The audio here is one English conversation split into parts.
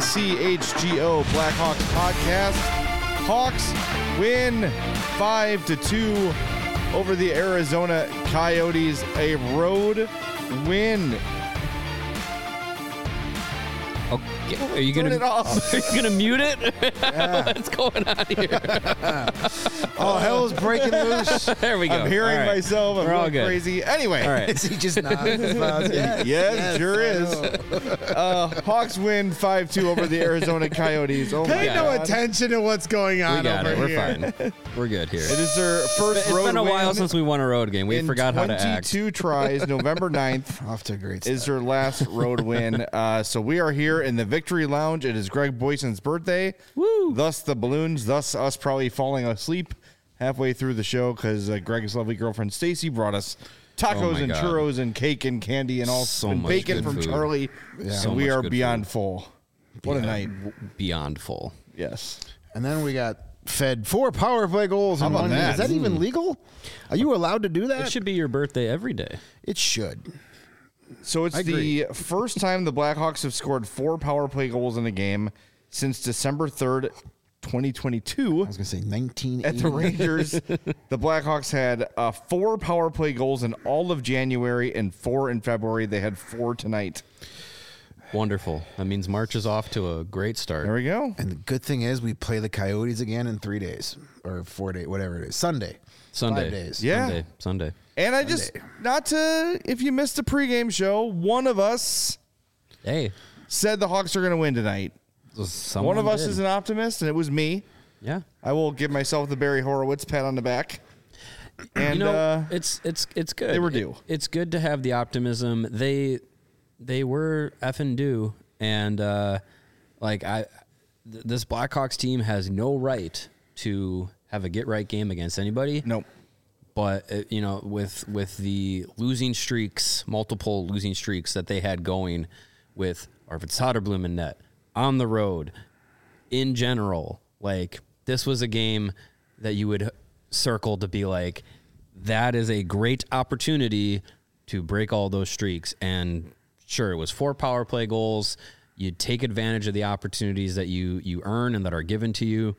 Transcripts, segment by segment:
CHGO Blackhawks podcast. Hawks win 5-2 over the Arizona Coyotes. A road win. Okay. Are you gonna mute it? Yeah. What's going on here? Oh, hell's breaking loose. There we go. I'm hearing All right. myself. I'm We're all going good. crazy. Anyway. All right. Is he just nodding his mouth? Yes, sure is. Hawks win 5-2 over the Arizona Coyotes. Oh Pay my no God. attention to what's going on We got over it. We're here. fine. We're good here. It is their first It's road been a while win since we won a road game. We in forgot how to act. 22 tries. November 9th Off to a great is start. their last road win. So we are here in the Victory Lounge. It is Greg Boyson's birthday. Woo! Thus the balloons. Thus us probably falling asleep halfway through the show because Greg's lovely girlfriend Stacy brought us tacos my and God. churros and cake and candy and all So and much bacon good from food. Charlie. Yeah. So So we much are good beyond food. full. What a night. Beyond full. Yes. And then we got fed 4 power play goals in about one that? game. Is that even legal? Are you allowed to do that? It should be your birthday every day. It should. So it's I agree. the first time the Blackhawks have scored 4 power play goals in a game since December 3rd, 2022. I was going to say 1980. At the Rangers, the Blackhawks had 4 power play goals in all of January and 4 in February. They had 4 tonight. Wonderful. That means March is off to a great start. There we go. And the good thing is we play the Coyotes again in 3 days or 4 days, whatever it is. Sunday. Sunday. 5 days. Yeah. Sunday. And I just, not to, if you missed the pregame show, one of us Hey. said the Hawks are going to win tonight. Someone One of us did. is an optimist, and it was me. Yeah. I will give myself the Barry Horowitz pat on the back. And You know, it's good. they were due. It's good to have the optimism. They were effing due, and this Blackhawks team has no right to have a get right game against anybody. nope. But with the losing streaks, multiple losing streaks that they had going, with Arvid Soderblom in net, on the road, in general, like this was a game that you would circle to be like, that is a great opportunity to break all those streaks. And sure, it was 4 power play goals. You take advantage of the opportunities that you earn and that are given to you.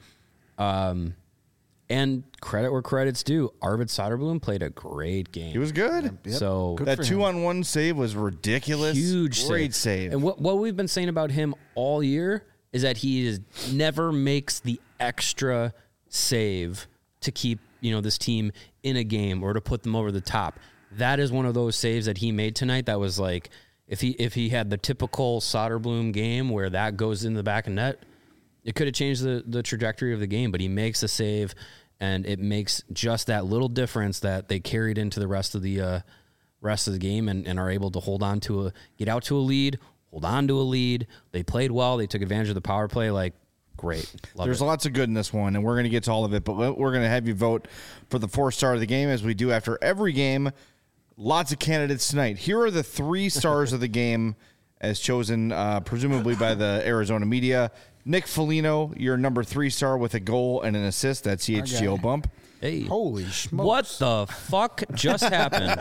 And credit where credit's due. Arvid Soderblom played a great game. He was good. Yep. So Good That for him. 2-on-1 save was ridiculous. huge Great save. And what we've been saying about him all year is that never makes the extra save to keep this team in a game or to put them over the top. That is one of those saves that he made tonight. That was like, if he had the typical Soderblom game where that goes in the back of net, it could have changed the trajectory of the game. But he makes a save, and it makes just that little difference that they carried into the rest of the game and are able to get out to a lead, hold on to a lead. They played well. They took advantage of the power play. Like, great. Love There's it. lots of good in this one, and we're going to get to all of it, but we're going to have you vote for the 4-star of the game as we do after every game. Lots of candidates tonight. Here are the 3 stars of the game as chosen, presumably by the Arizona media. Nick Foligno, your number 3 star with a goal and an assist. That's CHGO bump. Hey, Holy smokes. what the fuck just happened?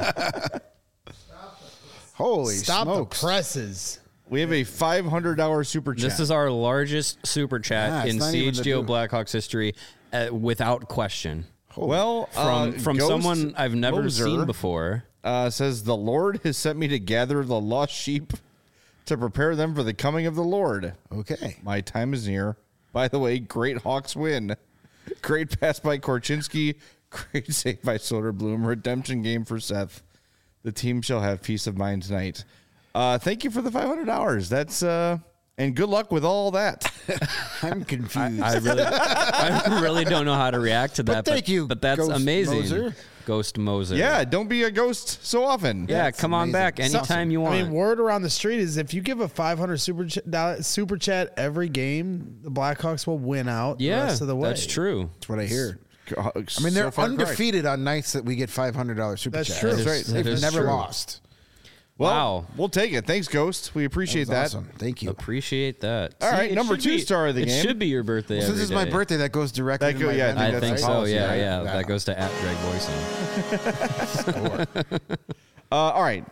Holy Stop smokes. the presses. We have a $500 super chat. This is our largest super chat Yeah, it's in not even the CHGO dude. Blackhawks history, without question. well, From Ghost someone I've never Moser, seen before. says, the Lord has sent me to gather the lost sheep to prepare them for the coming of the Lord. Okay. My time is near. By the way, great Hawks win. Great pass by Korchinski. Great save by Soderblom. Redemption game for Seth. The team shall have peace of mind tonight. Thank you for the $500. That's and good luck with all that. I'm confused. I really don't know how to react to that. thank you, But that's Ghost amazing. Moser. Ghost Moser. Yeah, don't be a ghost so often. Yeah, That's come on amazing. back anytime you want. I mean, word around the street is if you give a $500 super chat every game, the Blackhawks will win out the yeah, rest of the way. that's true. That's what I hear. I I mean, they're undefeated on nights that we get $500 super That's chat. true. That's right. They've That is never true. lost. Well, Wow. we'll take it. Thanks, Ghost. We appreciate that. Awesome. Thank you. Appreciate that. All right, it number should 2 star of the it game. should be your birthday. Since every it's my day. birthday, that goes directly That to go- my yeah, I vendor. I that's think the so. policy, Yeah, right? yeah. That goes to @Greg Boyson. All right.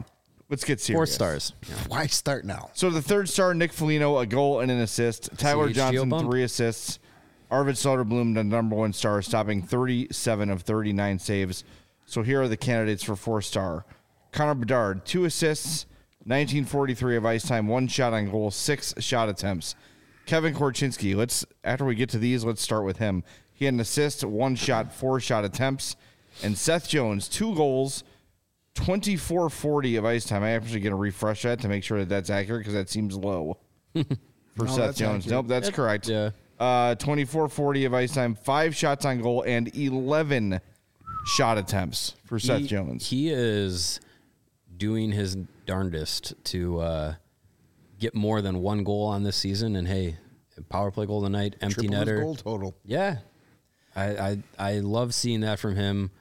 let's get serious. 4 stars. Why start now? So the third star, Nick Foligno, a goal and an assist. Tyler CHGO Johnson, bump. 3 assists. Arvid Soderblom, the number 1 star, stopping 37 of 39 saves. So here are the candidates for 4-star. Connor Bedard, 2 assists, 1943 of ice time, 1 shot on goal, 6 shot attempts. Kevin Korchinski, after we get to these, let's start with him. He had an assist, 1 shot, 4 shot attempts. And Seth Jones, 2 goals, 2440 of ice time. I actually going to refresh that to make sure that that's accurate because that seems low for Seth that's Jones. accurate. Nope, that's correct. Yeah. 2440 of ice time, 5 shots on goal, and 11 shot attempts for Seth Jones. He is doing his darndest to get more than 1 goal on this season. And hey, power play goal tonight, empty Triple his netter. goal total. Yeah, I love seeing that from him.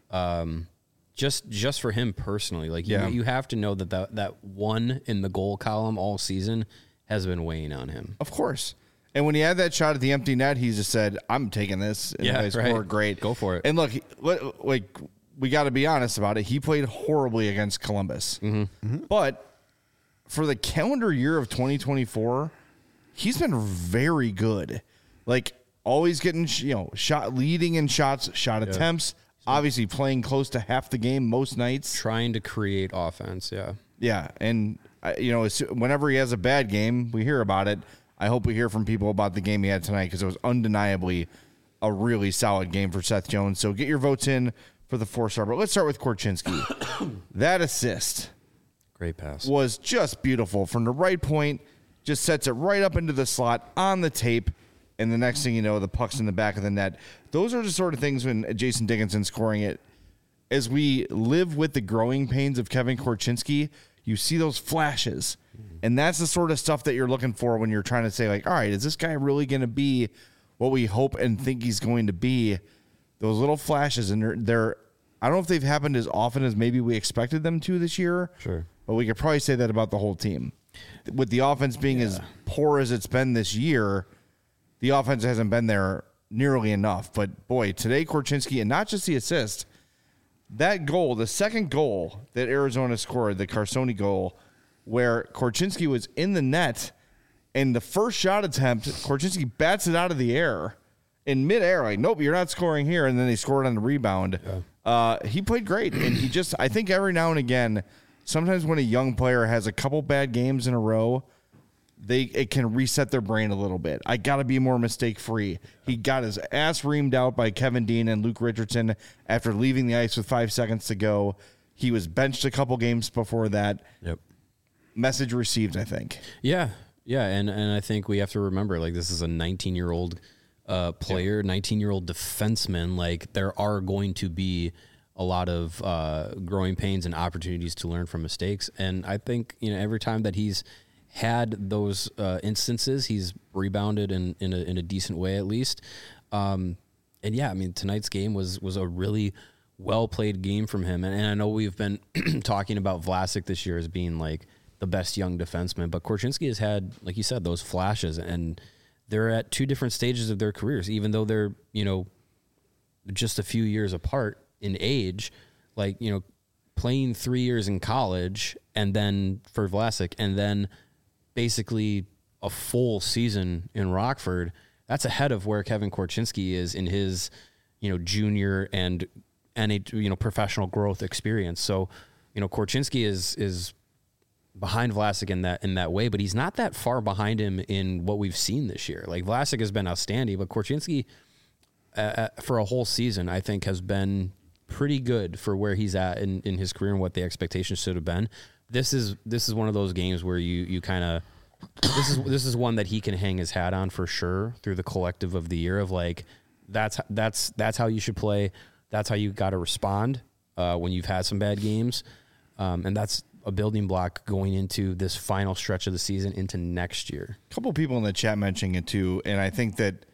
Just for him personally, like you have to know that 1 in the goal column all season has been weighing on him. Of course. And when he had that shot at the empty net, he just said, I'm taking this. And they scored great. Go for it. And look, we got to be honest about it. He played horribly against Columbus. But for the calendar year of 2024, he's been very good. Like, always getting, shot leading in shots, shot attempts, obviously playing close to half the game most nights. Trying to create offense, yeah. Yeah, and, whenever he has a bad game, we hear about it. I hope we hear from people about the game he had tonight because it was undeniably a really solid game for Seth Jones. So get your votes in for the 4-star. But let's start with Korchinski. That assist Great pass. was just beautiful. From the right point, just sets it right up into the slot on the tape. And the next thing you know, the puck's in the back of the net. Those are the sort of things when Jason Dickinson scoring it. As we live with the growing pains of Kevin Korchinski, you see those flashes. And that's the sort of stuff that you're looking for when you're trying to say, like, all right, is this guy really going to be what we hope and think he's going to be? Those little flashes, and they're I don't know if they've happened as often as maybe we expected them to this year. Sure. But we could probably say that about the whole team. With the offense being as poor as it's been this year, the offense hasn't been there nearly enough. But, boy, today Korchinski, and not just the assist, that goal, the second goal that Arizona scored, the Carsoni goal, where Korchinski was in the net, and the first shot attempt, Korchinski bats it out of the air in midair. Like, nope, you're not scoring here. And then they scored on the rebound. Yeah. He played great. And he just, I think every now and again, sometimes when a young player has a couple bad games in a row, it can reset their brain a little bit. I got to be more mistake-free. He got his ass reamed out by Kevin Dean and Luke Richardson after leaving the ice with 5 seconds to go. He was benched a couple games before that. Yep. Message received, I think. Yeah. Yeah. And I think we have to remember, like, this is a 19-year-old player, 19-year-old defenseman. Like, there are going to be a lot of growing pains and opportunities to learn from mistakes. And I think, every time that he's had those instances, he's rebounded in a decent way, at least. And yeah, I mean, tonight's game was a really well played game from him. And I know we've been talking about Vlasic this year as being like the best young defenseman, but Korchinski has had, like you said, those flashes, and they're at 2 different stages of their careers, even though they're, just a few years apart in age. Like, playing 3 years in college, and then for Vlasic, and then basically a full season in Rockford. That's ahead of where Kevin Korchinski is in his, junior and professional growth experience. So, Korchinski is behind Vlasic in that way, but he's not that far behind him in what we've seen this year. Like, Vlasic has been outstanding, but Korchinski for a whole season, I think, has been pretty good for where he's at in his career and what the expectations should have been. This is one of those games where you kind of this is one that he can hang his hat on for sure through the collective of the year of, like, that's how you should play. That's how you got to respond when you've had some bad games, and that's a building block going into this final stretch of the season into next year. A couple people in the chat mentioning it too, and I think that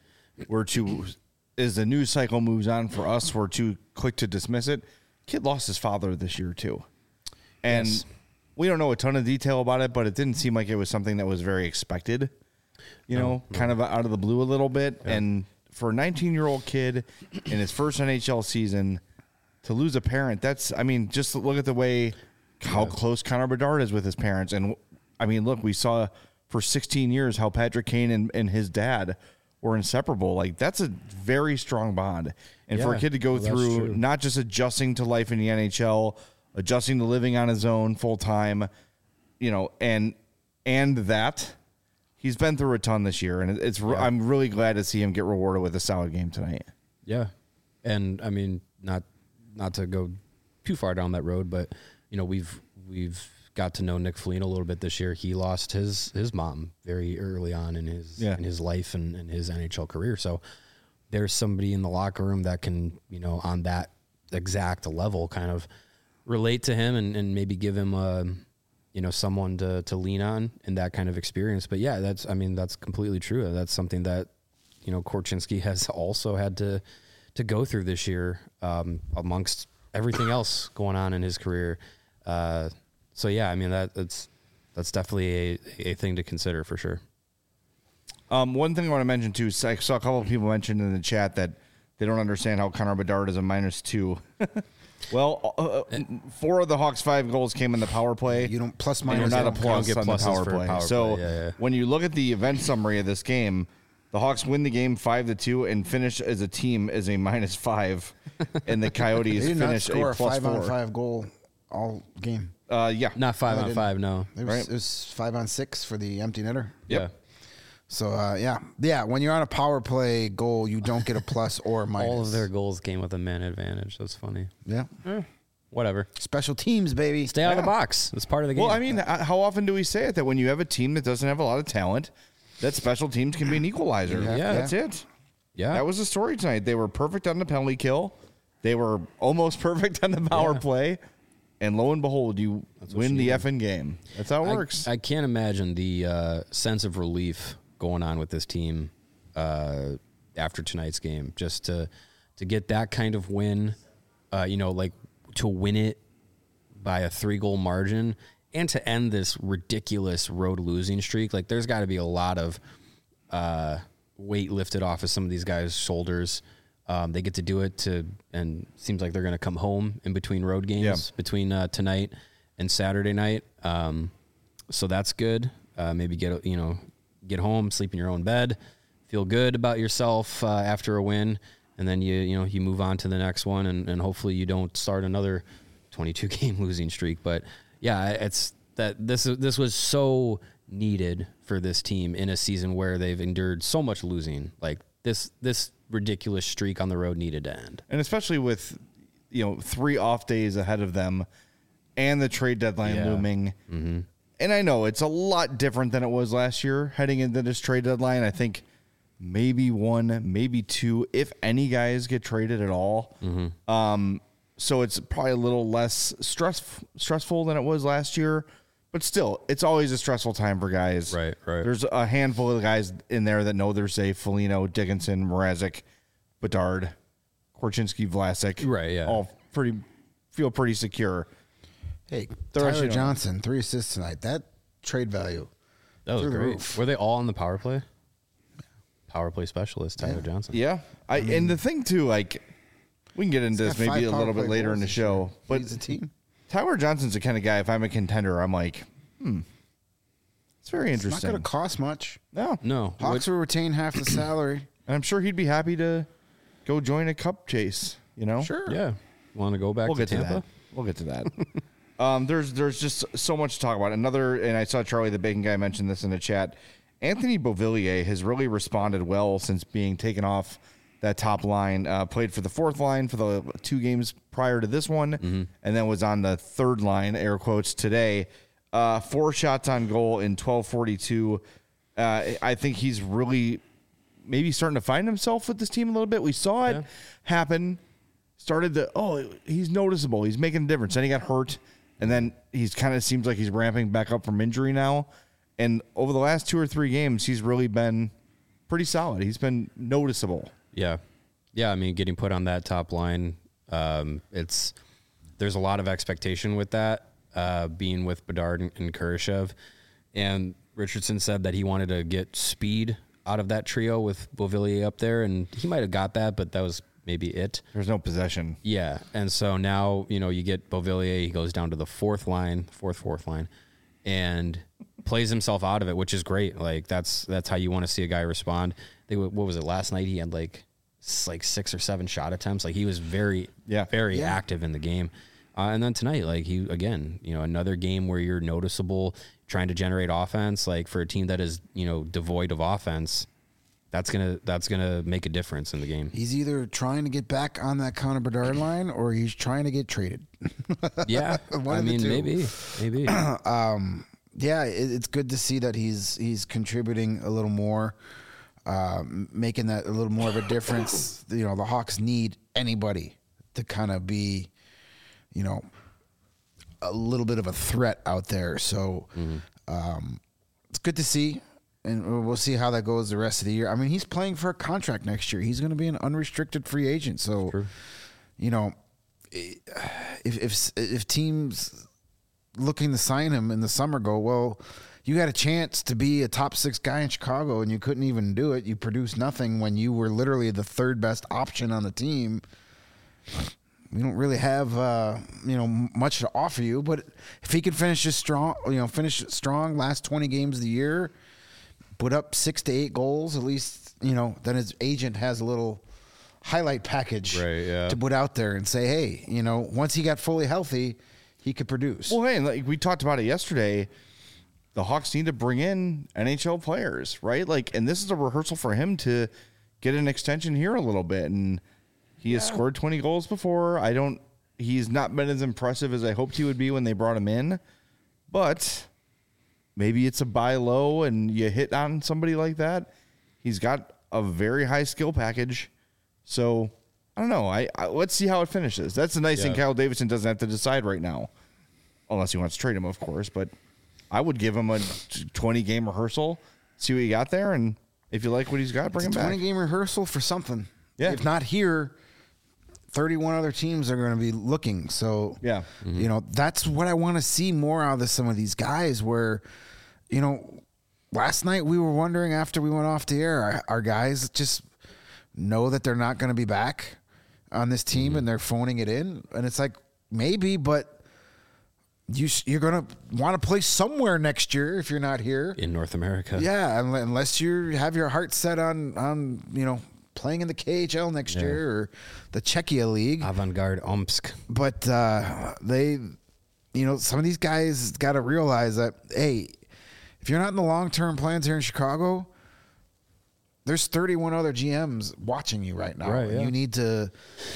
as the news cycle moves on for us, we're too quick to dismiss it. Kid lost his father this year too, and we don't know a ton of detail about it, but it didn't seem like it was something that was very expected. Kind of out of the blue a little bit, and for a 19-year-old kid in his first NHL season to lose a parent, just look at the way how close Connor Bedard is with his parents. And I mean, look, we saw for 16 years how Patrick Kane and his dad were inseparable. Like, that's a very strong bond. And for a kid to go through not just adjusting to life in the NHL, adjusting to living on his own full time, you know, and that he's been through a ton this year. And I'm really glad to see him get rewarded with a solid game tonight. Yeah. And I mean, not to go too far down that road, but you know, we've got to know Nick Foligno a little bit this year. He lost his mom very early on in his life and his NHL career. So there's somebody in the locker room that can, you know, on that exact level kind of relate to him and maybe give him you know, someone to lean on in that kind of experience. But yeah, that's completely true. That's something that, you know, Korchinski has also had to go through this year, amongst everything else going on in his career. So yeah, I mean, that's definitely a thing to consider for sure. One thing I want to mention too, is I saw a couple of people mention in the chat that they don't understand how Connor Bedard is a -2. Well, 4 of the Hawks' 5 goals came in the power play. You don't plus and minus. you're not a don't plus get on the pluses power for play. power So play. Yeah. when you look at the event summary of this game, the Hawks win the game 5-2 and finish as a team as a -5, and the Coyotes They did not finish score a a 5-on-5 +4. goal all game. Yeah, Not 5-on-5, no. It was 5-on-6 for the empty netter. Yeah. So yeah. When you're on a power play goal, you don't get a plus or a minus. All of their goals came with a man advantage. That's funny. Yeah. Whatever. Special teams, baby. Stay out of the box. It's part of the game. Well, I mean, how often do we say it that when you have a team that doesn't have a lot of talent, that special teams can be an equalizer? Yeah. That's it. yeah. That was the story tonight. They were perfect on the penalty kill. They were almost perfect on the power play. And lo and behold, you win the effing game. That's how it works. I can't imagine the sense of relief going on with this team after tonight's game. Just to get that kind of win, you know, like to win it by a 3-goal margin and to end this ridiculous road losing streak. Like, there's got to be a lot of weight lifted off of some of these guys' shoulders. They get to do it and it seems like they're going to come home in between road games between tonight and Saturday night. So that's good. Maybe get home, sleep in your own bed, feel good about yourself after a win, and then you move on to the next one, and hopefully you don't start another 22-game losing streak. But yeah, it's that this was so needed for this team in a season where they've endured so much losing. Like this ridiculous streak on the road needed to end. And especially with, 3 off days ahead of them and the trade deadline looming. Mm-hmm. And I know it's a lot different than it was last year heading into this trade deadline. I think maybe 1, maybe 2, if any guys get traded at all. Mm-hmm. So it's probably a little less stressful than it was last year. But still, it's always a stressful time for guys. Right. There's a handful of guys in there that know they're safe. Foligno, Dickinson, Mrazek, Bedard, Korchinski, Vlasic. Right, yeah. All feel pretty secure. Hey, The rest Tyler you don't. Johnson, 3 assists tonight. That trade value. That was Through the great. roof. Were they all on the power play? Power play specialist, Tyler Johnson. Yeah. And the thing, too, like, we can get into He's this got maybe 5 a little power bit play later in goals the this show. year. But Leads the team. Tyler Johnson's the kind of guy, if I'm a contender, I'm like, it's very It's not interesting. going to cost much. No. Hawks will retain half the salary. And I'm sure he'd be happy to go join a cup chase, Sure. Yeah. Want to go back We'll to get to Tampa? that. We'll get to that. There's just so much to talk about. And I saw Charlie the Bacon guy mention this in the chat. Anthony Beauvillier has really responded well since being taken off that top line. Played for the 4th line for the 2 games prior to this one, and then was on the 3rd line, air quotes, today. 4 shots on goal in 12:42. I think he's really maybe starting to find himself with this team a little bit. We saw it happen. He's noticeable. He's making a difference. Then he got hurt, and then he's kind of seems like he's ramping back up from injury now. And over the last 2 or 3 games, he's really been pretty solid. He's been noticeable. Yeah. I mean, getting put on that top line, there's a lot of expectation with that, being with Bedard and Kurashev. And Richardson said that he wanted to get speed out of that trio with Beauvillier up there, and he might have got that, but that was maybe it. There's no possession. Yeah, and so now you get Beauvillier. He goes down to the fourth line, and plays himself out of it, which is great. Like that's how you want to see a guy respond. I think, what was it last night? He had like 6 or 7 shot attempts. Like he was very active in the game. And then tonight, like he again, another game where you're noticeable, trying to generate offense. Like for a team that is devoid of offense, that's gonna make a difference in the game. He's either trying to get back on that Connor Bedard line or he's trying to get traded. Yeah, I mean maybe. Yeah, it's good to see that he's contributing a little more, making that a little more of a difference. The Hawks need anybody to kind of be, a little bit of a threat out there. So it's good to see, and we'll see how that goes the rest of the year. I mean, he's playing for a contract next year. He's going to be an unrestricted free agent. So, if teams looking to sign him in the summer go, well, you got a chance to be a top 6 guy in Chicago and you couldn't even do it. You produced nothing when you were literally the 3rd best option on the team. We don't really have, much to offer you, but if he can finish strong last 20 games of the year, put up 6 to 8 goals, at least, then his agent has a little highlight package to put out there and say, hey, once he got fully healthy, he could produce. Well, hey, like we talked about it yesterday, the Hawks need to bring in NHL players, right? Like, and this is a rehearsal for him to get an extension here a little bit. And he has scored 20 goals before. He's not been as impressive as I hoped he would be when they brought him in, but maybe it's a buy low and you hit on somebody like that. He's got a very high skill package. So I don't know. Let's see how it finishes. That's the nice thing. Kyle Davidson doesn't have to decide right now, unless he wants to trade him, of course. But I would give him a 20-game rehearsal, see what you got there, and if you like what he's got, bring him back. 20-game rehearsal for something. Yeah. If not here, 31 other teams are going to be looking. So, that's what I want to see more out of some of these guys where, last night we were wondering after we went off the air, our guys just know that they're not going to be back on this team and they're phoning it in. And it's like, maybe, but you're going to want to play somewhere next year if you're not here. In North America. Yeah, unless you have your heart set on playing in the KHL next year or the Czechia League. Avangard Omsk. But they, some of these guys got to realize that, hey, if you're not in the long-term plans here in Chicago, there's 31 other GMs watching you right now. Right, yeah. You need to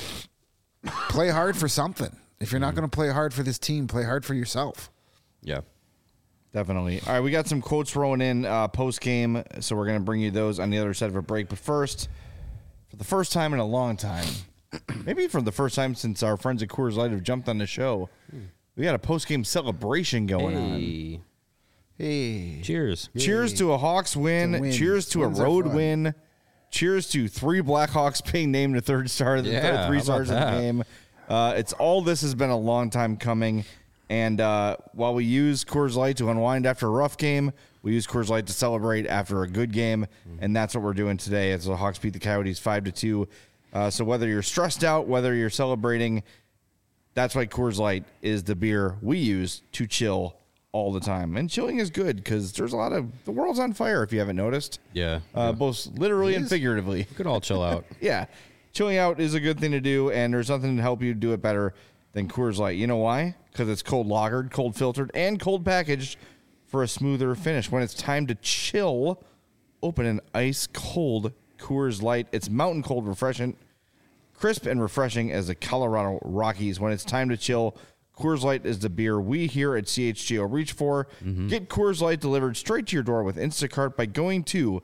play hard for something. If you're not going to play hard for this team, play hard for yourself. Yeah. Definitely. All right, we got some quotes rolling in post-game, so we're going to bring you those on the other side of a break. But first, for the first time in a long time, maybe for the first time since our friends at Coors Light have jumped on the show, we got a post-game celebration going on. Hey. Cheers. Cheers to a Hawks win. Cheers to Wins a are road fun. win. Cheers to 3 Blackhawks being named the 3rd star of the 3 stars of the game. This has been a long time coming. And while we use Coors Light to unwind after a rough game, we use Coors Light to celebrate after a good game. And that's what we're doing today as the Hawks beat the Coyotes 5-2. So whether you're stressed out, whether you're celebrating, that's why Coors Light is the beer we use to chill all the time. And chilling is good because there's a lot of the world's on fire, if you haven't noticed. Yeah. Both literally and figuratively. We could all chill out. Yeah. Chilling out is a good thing to do, and there's nothing to help you do it better than Coors Light. You know why? Because it's cold lagered, cold filtered, and cold packaged for a smoother finish. When it's time to chill, open an ice cold Coors Light. It's mountain cold refreshing, crisp and refreshing as the Colorado Rockies. When it's time to chill, Coors Light is the beer we here at CHGO reach for. Get Coors Light delivered straight to your door with Instacart by going to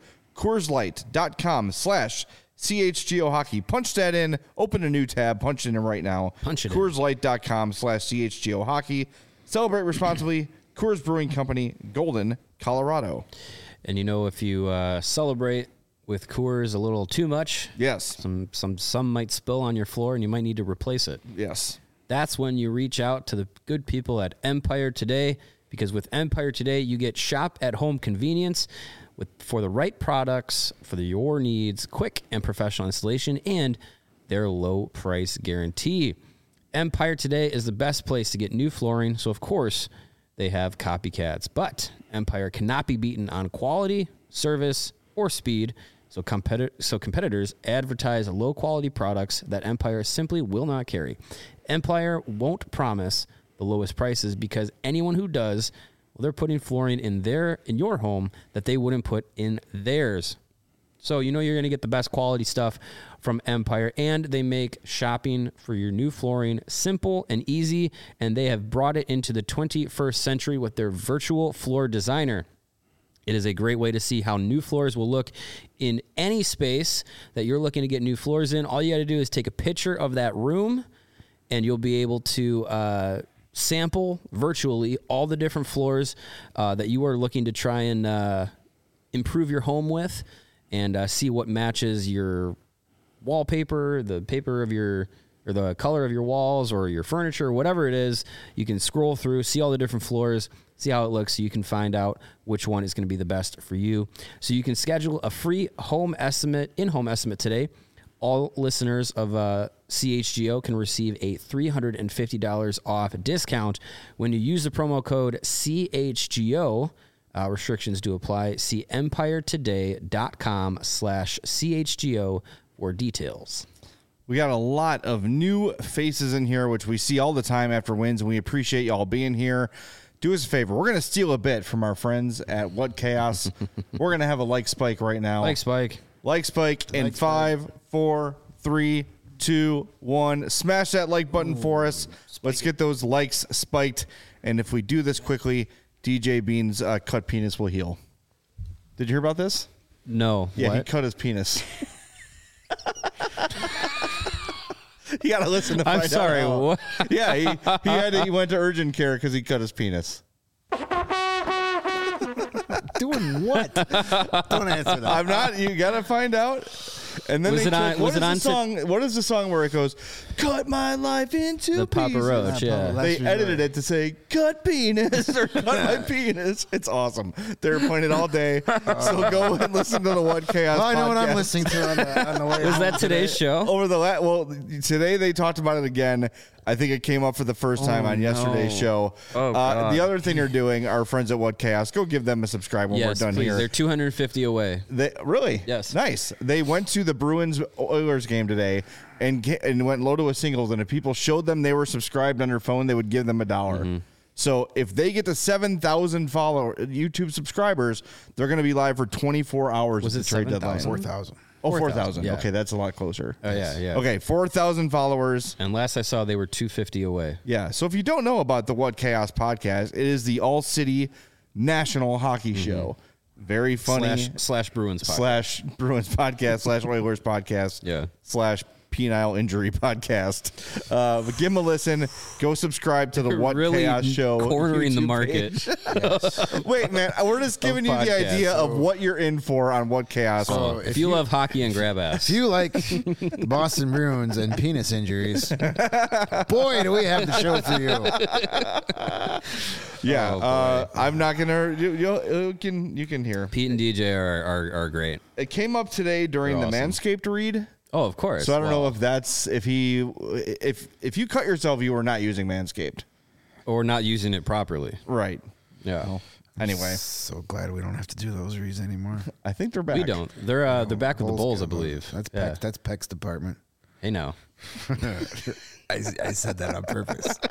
CoorsLight.com/CHGO Hockey. Punch that in, open a new tab, punch it in right now. Punch it in. CoorsLight.com/CHGO Hockey. Celebrate responsibly. Coors Brewing Company, Golden, Colorado. And if you celebrate with Coors a little too much, Yes. some might spill on your floor and you might need to replace it. Yes. That's when you reach out to the good people at Empire Today, because with Empire Today, you get shop-at-home convenience for the right products for your needs, quick and professional installation, and their low price guarantee. Empire Today is the best place to get new flooring, so of course they have copycats. But Empire cannot be beaten on quality, service, or speed, so competitors advertise low-quality products that Empire simply will not carry. Empire won't promise the lowest prices because anyone who does, well, they're putting flooring in your home that they wouldn't put in theirs. So you know you're going to get the best quality stuff from Empire, and they make shopping for your new flooring simple and easy, and they have brought it into the 21st century with their virtual floor designer. It is a great way to see how new floors will look in any space that you're looking to get new floors in. All you got to do is take a picture of that room, and you'll be able to sample virtually all the different floors that you are looking to try and improve your home with, and see what matches your wallpaper, the paper of or the color of your walls or your furniture, or whatever it is. You can scroll through, see all the different floors, see how it looks, so you can find out which one is going to be the best for you. So you can schedule a free in-home estimate today. All listeners of CHGO can receive a $350 off discount when you use the promo code CHGO. Restrictions do apply. See empiretoday.com/CHGO for details. We got a lot of new faces in here, which we see all the time after wins, and we appreciate y'all being here. Do us a favor. We're going to steal a bit from our friends at What Chaos. We're going to have a like spike right now. Like spike. Like spike in 5, 4, 3, 2, 1. Smash that like button for us. Let's get those likes spiked. And if we do this quickly, DJ Bean's cut penis will heal. Did you hear about this? No. Yeah, what? he cut his penis. You got to listen to find I'm sorry. out. What? Yeah, he went to urgent care because he cut his penis. Doing what? Don't answer that. I'm not. You got to find out. And then Was they it on- took, was it on what is the song where it goes, cut my life into The Papa pieces? Roach, yeah. They edited it to say, cut penis or cut my penis. It's awesome. They're playing it all day. So go and listen to the What Chaos Well, I know what I'm podcast. listening to on the way. Was home that today's today. show? Over today they talked about it again. I think it came up for the first time on yesterday's show. Oh, God. The other thing they're doing, our friends at What Chaos, go give them a subscribe when Yes, we're done please. here. They're 250 away. They really? Yes. Nice. They went to the Bruins Oilers game today and went low to a singles, and if people showed them they were subscribed on their phone, they would give them $1. Mm-hmm. So if they get to 7,000 YouTube subscribers, they're going to be live for 24 hours Was at it the trade 7,000? deadline. 4,000. Oh, 4,000, 4,000. yeah. Okay, that's a lot closer. Oh, yeah. Okay, 4,000 followers. And last I saw, they were 250 away. Yeah. So if you don't know about the What Chaos podcast, it is the All-City National Hockey Show. Very funny. Slash Bruins podcast. / Bruins podcast / Oilers podcast. Yeah. / penile injury podcast. But give them a listen. Go subscribe to the What Really Chaos Show. cornering the YouTube market. page. Wait, man. We're just giving you the podcast. idea of what you're in for on What Chaos. So if you love hockey and grab ass, If you like the Boston Bruins and penis injuries, boy, do we have the show for you. Yeah. Oh, boy. I'm not gonna. You can hear. Pete and DJ are great. It came up today during They're the awesome. Manscaped read. Oh, of course. So I don't Well, know if that's if you cut yourself, you were not using Manscaped. or not using it properly. Right. Yeah. Anyway, So glad we don't have to do those reads anymore. I think they're back. We don't. They're back with the Bulls, I got those. believe. That's yeah. Peck's, that's Peck's department. Hey, now. I said that on purpose.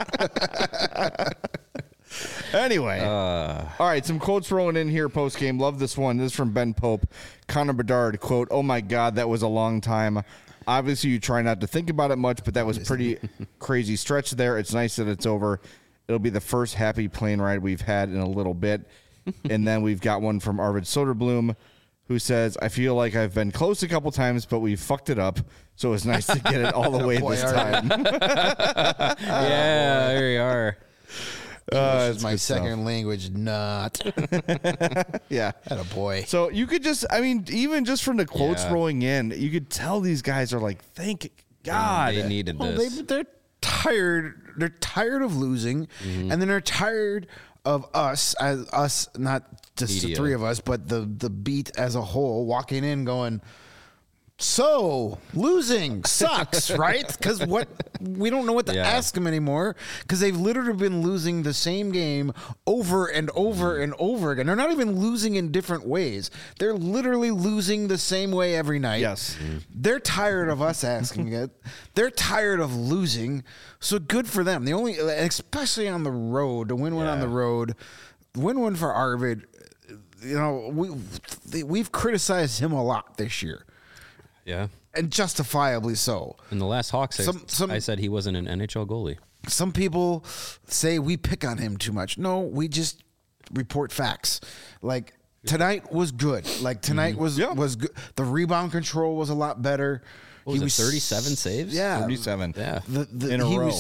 Anyway, all right, some quotes rolling in here post game. Love this one. This is from Ben Pope. Connor Bedard, quote, "Oh my God, that was a long time. Obviously, you try not to think about it much, but that was pretty crazy stretch there. It's nice that it's over. It'll be the first happy plane ride we've had in a little bit." And then we've got one from Arvid Soderblom, who says, "I feel like I've been close a couple times, but we fucked it up. So it's nice to get it all the way Boy, this Arvid. time." Yeah, there you are. This is it's my good stuff. second language, not. Yeah. That a boy. So you could just, I mean, even just from the quotes Yeah. rolling in, you could tell these guys are like, thank God. They needed Well, this. they're tired. They're tired of losing, and then they're tired of us, not just the Media. three of us, but the beat as a whole, walking in going, So losing sucks, right? Because we don't know what to ask them anymore because they've literally been losing the same game over and over and over again. They're not even losing in different ways. They're literally losing the same way every night. Yes. They're tired of us asking it. They're tired of losing. So good for them. Especially on the road, to win one on the road, win one for Arvid. You know, we've criticized him a lot this year. Yeah. And justifiably so. In the last Hawks, I said he wasn't an NHL goalie. Some people say we pick on him too much. No, we just report facts. Like tonight was good. Like tonight was good. The rebound control was a lot better. What was it, 37 saves? Yeah. 37. Yeah. In a row.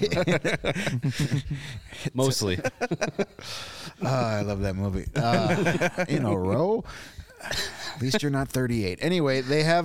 Mostly. I love that movie. In a row? At least you're not 38. Anyway, they have,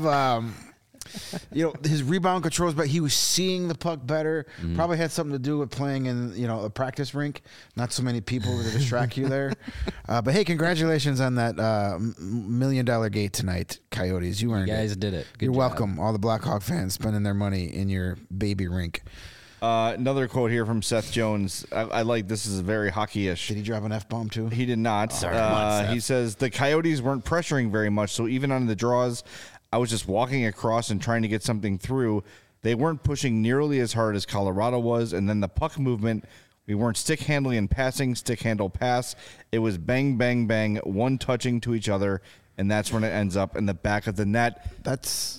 his rebound controls, but he was seeing the puck better. Probably had something to do with playing in, a practice rink. Not so many people to distract you there. But hey, congratulations on that $1 million gate tonight, Coyotes. You earned it. You guys did it. Good You're job. welcome. All the Blackhawk fans spending their money in your baby rink. Another quote here from Seth Jones. I like this. Is very hockey-ish. Did he drop an F-bomb too? He did not. He says the Coyotes weren't pressuring very much, so even on the draws, I was just walking across and trying to get something through. They weren't pushing nearly as hard as Colorado was, and then the puck movement, we weren't stick handling and passing, stick handle pass. It was bang, bang, bang, one touching to each other, and that's when it ends up in the back of the net. That's...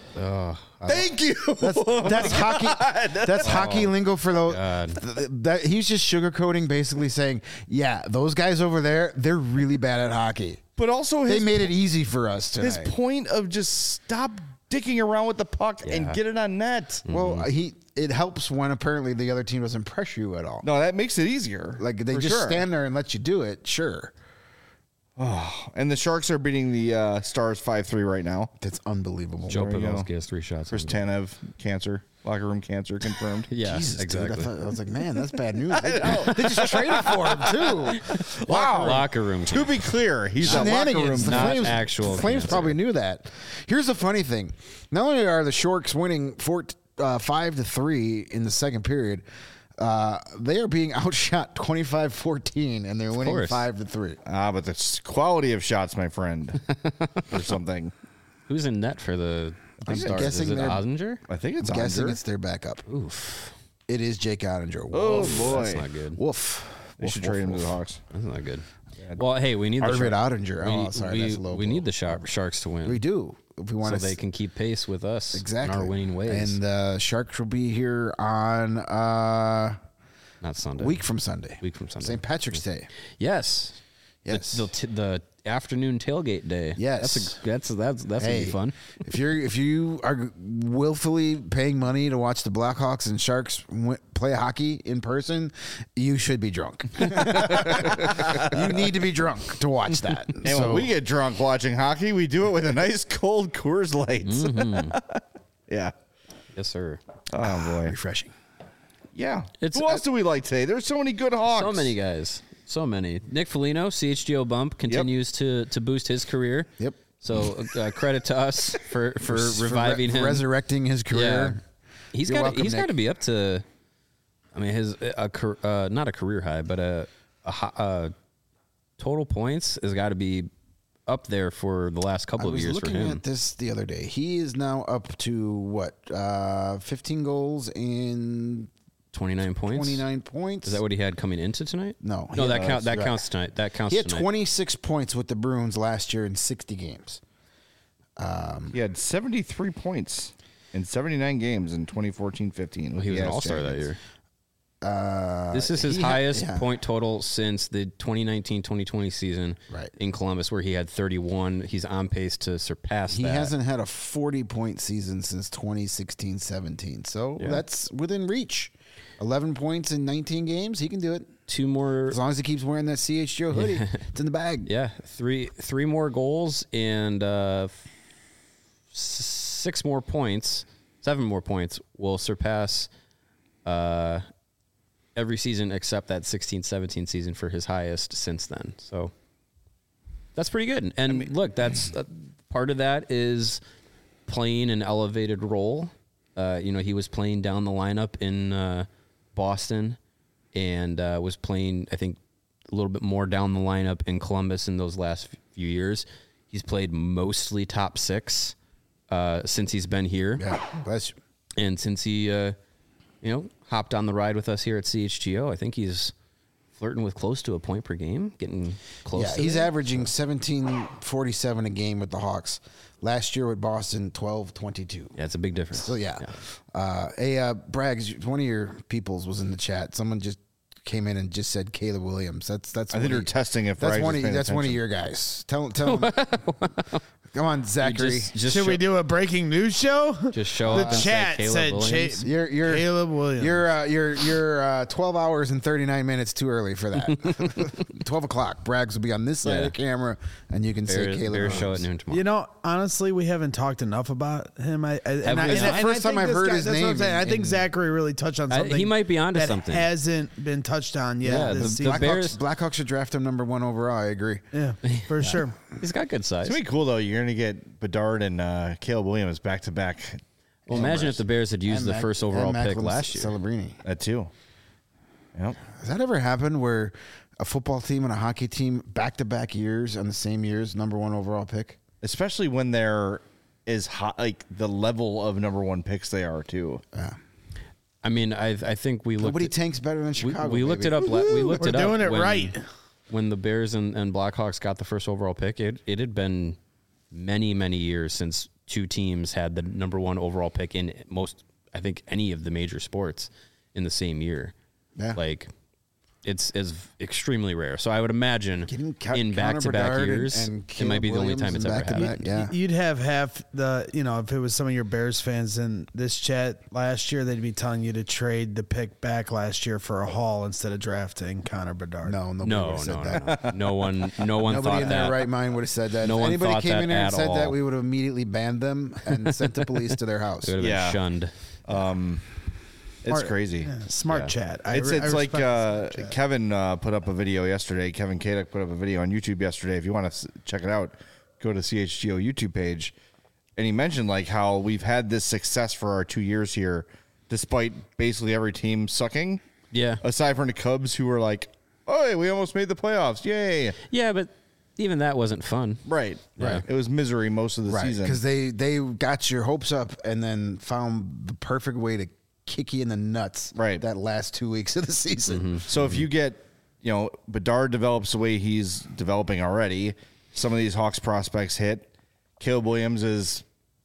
Thank you. That's hockey. That's hockey lingo for that. He's just sugarcoating, basically saying, "Yeah, those guys over there, they're really bad at hockey." But also, They made it easy for us tonight. his point of just stop dicking around with the puck and get it on net. Well, it helps when apparently the other team doesn't pressure you at all. No, that makes it easier. Like they for just sure. stand there and let you do it. Sure, And the Sharks are beating the Stars 5-3 right now. that's unbelievable. Joe There you go. Pavelski has 3 shots. Chris Tanev, cancer, locker room cancer confirmed. Yeah, Jesus, exactly. dude, I was like, man, that's bad news. They just traded for him too. Wow. Locker room. To be clear, he's a locker room. Shenanigans. The not Flames, actual the Flames cancer. probably knew that. Here's the funny thing: not only are the Sharks winning 5-3 in the second period, they are being outshot 25-14, and they're winning course. 5-3. But the quality of shots, my friend, or something. Who's in net for the Stars? guessing Is it they're- Ozinger? I think it's I'm guessing Onger. it's their backup. Oof. It is Jake Ottinger. Oh Woof. boy, That's not good. Woof. they should trade him to the Hawks. That's not good. Well, hey, we need the Arvid Sharks. Ottinger. Oh, sorry, that's a low we blow. need the Sharks to win. We do. If we want so to they can keep pace with us exactly in our winning ways. And the Sharks will be here on Not Sunday. week from Sunday. Week from Sunday. St. Patrick's Day. Yes. Yes. The afternoon tailgate day. Yes. That's gonna be fun. If you are willfully paying money to watch the Blackhawks and Sharks play hockey in person, you should be drunk. You need to be drunk to watch that. And when we get drunk watching hockey, we do it with a nice cold Coors Light. Yeah. Yes, sir. Oh boy. refreshing. Yeah. It's- Who else do we like today? There's so many good Hawks. So many guys. So many. Nick Foligno, CHGO bump, continues to boost his career. Yep. So credit to us for reviving him. resurrecting his Yeah. career. He's You're got welcome, he's got Nick. to be up to. I mean, his not a career high, but a total points has got to be up there for the last couple I of was years for looking him. at this the other day. He is now up to what? 15 goals in 29 points. 29 points. Is that what he had coming into tonight? No. No, He- that counts tonight. That counts He had tonight. 26 points with the Bruins last year in 60 games. He had 73 points in 79 games in 2014-15. Well, he was an Yeah, all-star that standings. year. This is his he had- highest yeah. point total since the 2019-2020 season Right. in Columbus, where he had 31. He's on pace to surpass He that. hasn't had a 40-point season since 2016-17. So that's within reach. 11 points in 19 games. He can do it. Two more. As long as he keeps wearing that CHGO hoodie. It's in the bag. Yeah, three more goals and 6 more points, 7 more points will surpass every season except that 16-17 season for his highest since then. So that's pretty good. And look, that's part of that is playing an elevated role. He was playing down the lineup in Boston and was playing, I think, a little bit more down the lineup in Columbus in those last few years. He's played mostly top six since he's been here. Yeah, bless you. And since he, hopped on the ride with us here at CHGO, I think he's flirting with close to a point per game, getting close. Yeah, to he's there. averaging 17.47 a game with the Hawks. Last year with Boston, 12.22. Yeah, it's a big difference. So yeah. Braggs, one of your peoples was in the chat. Someone just came in and just said Caleb Williams. That's. I think they're testing if that's Braggs one. is paying That's one of attention. your guys. Tell him. Come on, Zachary. Just Should we do a breaking news show? Just show The up and say chat Caleb said Williams. You're Caleb Williams. You're 12 hours and 39 minutes too early for that. 12 o'clock. Braggs will be on this side of the camera, and you can say Caleb Bears show at Williams. noon tomorrow. Honestly, we haven't talked enough about him. we It's the first time I've heard his That's what I'm name saying. I think in- Zachary really touched on something. he might be onto that something. hasn't been touched on yet. Yeah, this the season. Bears- Blackhawks should draft him number 1 overall. I agree. Yeah, for sure. He's got good size. It's gonna be cool though. You're gonna get Bedard and Caleb Williams back to back. Well, imagine if the Bears had used And the Mac- first and overall pick Macklin last year. Celebrini. That too. Yep. Has that ever happened where a football team and a hockey team back-to-back years on the same year's number 1 overall pick? Especially when they're as hot, like the level of number 1 picks they are too. Yeah. I mean, I think we looked. Nobody at, tanks better than Chicago. we looked baby. it up. We looked We're it up. doing it when- right. When the Bears and Blackhawks got the first overall pick, it had been many, many years since two teams had the number 1 overall pick in most, I think, any of the major sports in the same year. Yeah. Like, it's extremely rare. So I would imagine Getting in back-to-back Connor Bedard years, and it might be the only time it's ever Caleb Williams happened. back-to-back, yeah. You'd have half the, if it was some of your Bears fans in this chat last year, they'd be telling you to trade the pick back last year for a haul instead of drafting Connor Bedard. No, nobody No, would have said no, that. no one Nobody thought in that. their right mind would have said that. No if one anybody thought came that in here and at said that, all. we would have immediately banned them and sent the police to their house. It would have Yeah. been shunned. It's crazy. Yeah, smart chat. It's I like respect the smart chat. Kevin put up a video yesterday. Kevin Kaduk put up a video on YouTube yesterday. If you want to check it out, go to CHGO YouTube page. And he mentioned like how we've had this success for our 2 years here, despite basically every team sucking. Yeah. Aside from the Cubs, who were like, "Oh, we almost made the playoffs! Yay!" Yeah, but even that wasn't fun. Right. Yeah. It was misery most of the Right, season. because they got your hopes up and then found the perfect way to kick you in the nuts. Right. that last 2 weeks of the season. So if you get, Bedard develops the way he's developing already, some of these Hawks prospects hit. Caleb Williams is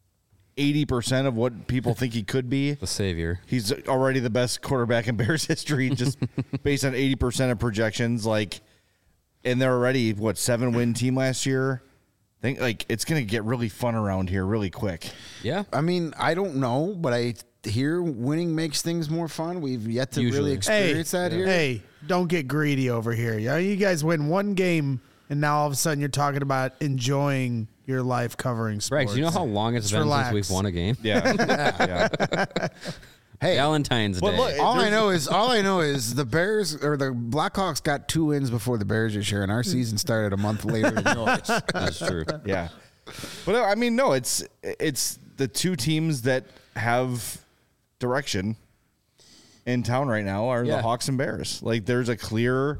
80% of what people think he could be. The savior. He's already the best quarterback in Bears history, just based on 80% of projections. And they're already 7-win team last year. I think it's going to get really fun around here really quick. Yeah. I mean, I don't know, but I hear winning makes things more fun. We've yet to Usually. really experience that here. Hey, don't get greedy over here. You guys win one game, and now all of a sudden you're talking about enjoying your life covering sports. Rex, you know how long it's Just been relax. since we've won a game? Yeah. Hey, Valentine's But Day. look, all I know is the Bears or the Blackhawks got 2 wins before the Bears this year, and our season started a month later than yours. That's true. Yeah. But I mean, no, it's the two teams that have direction in town right now are Yeah. the Hawks and Bears. There's a clear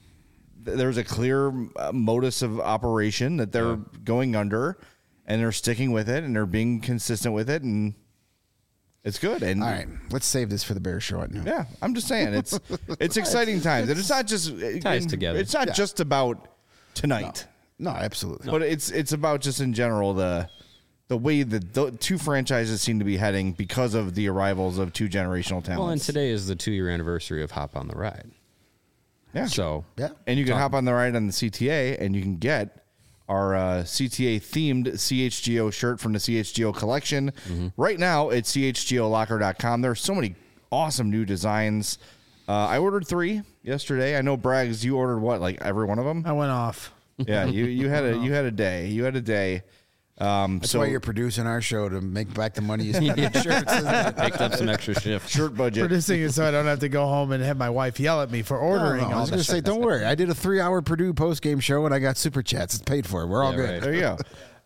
modus of operation that they're going under, and they're sticking with it, and they're being consistent with it, and it's good. And All right, let's save this for the Bears show at noon. yeah, I'm just saying it's exciting times. And it's not just ties together. It's not just about tonight. No, absolutely. But it's about just in general the way that the two franchises seem to be heading because of the arrivals of two generational talents. Well, and today is the 2-year anniversary of Hop on the Ride. yeah. So, Yeah. And you can hop on the ride on the CTA, and you can get our CTA themed CHGO shirt from the CHGO collection right now at chgolocker.com. There are so many awesome new designs. I ordered 3 yesterday. I know Braggs, you ordered what, every one of them? I went off. Yeah, you had a day. You had a day. That's why you're producing our show to make back the money you spent on shirts. isn't it? picked up some extra shifts. shirt budget. Producing it so I don't have to go home and have my wife yell at me for ordering No, I all was that going to say, don't worry. I did a 3-hour Purdue post-game show, and I got super chats. It's paid for. We're all Yeah, good. right. There you go.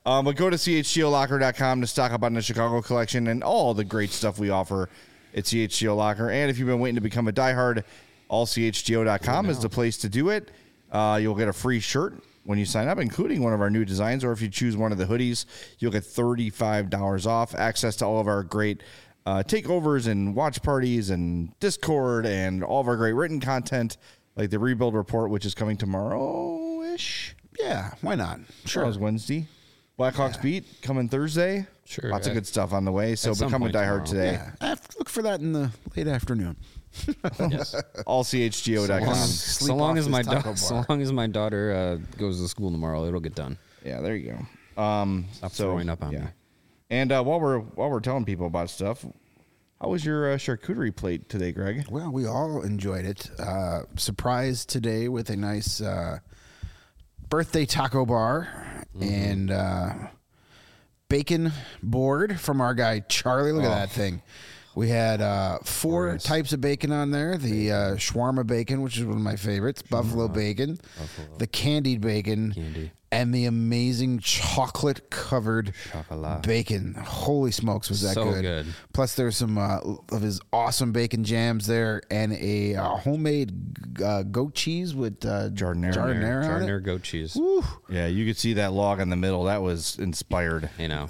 But go to chgolocker.com to stock up on the Chicago collection and all the great stuff we offer at CHGO Locker. And if you've been waiting to become a diehard, allchgo.com is the place to do it. You'll get a free shirt when you sign up, including one of our new designs, or if you choose one of the hoodies, you'll get $35 off, access to all of our great takeovers and watch parties and Discord and all of our great written content, like the Rebuild Report, which is coming tomorrow-ish. Yeah, why not? Sure. That was Wednesday. Blackhawks Beat coming Thursday. Sure. Lots of good stuff on the way. So become a diehard today. Yeah, I have to look for that in the late afternoon. Yes. Allchgo.com. So long as my daughter goes to school tomorrow, it'll get done. Yeah, there you go. Stop throwing up on me. And while we're telling people about stuff, how was your charcuterie plate today, Greg? Well, we all enjoyed it. Surprised today with a nice birthday taco bar and bacon board from our guy Charlie. Look at that thing. We had 4 types of bacon on there. The shawarma bacon, which is one of my favorites, buffalo bacon, the candied bacon, and the amazing chocolate-covered bacon. Holy smokes, was that So good. Plus, there's some of his awesome bacon jams there and a homemade goat cheese with Jardinera. Goat cheese. Woo. Yeah, you could see that log in the middle. That was inspired. You know.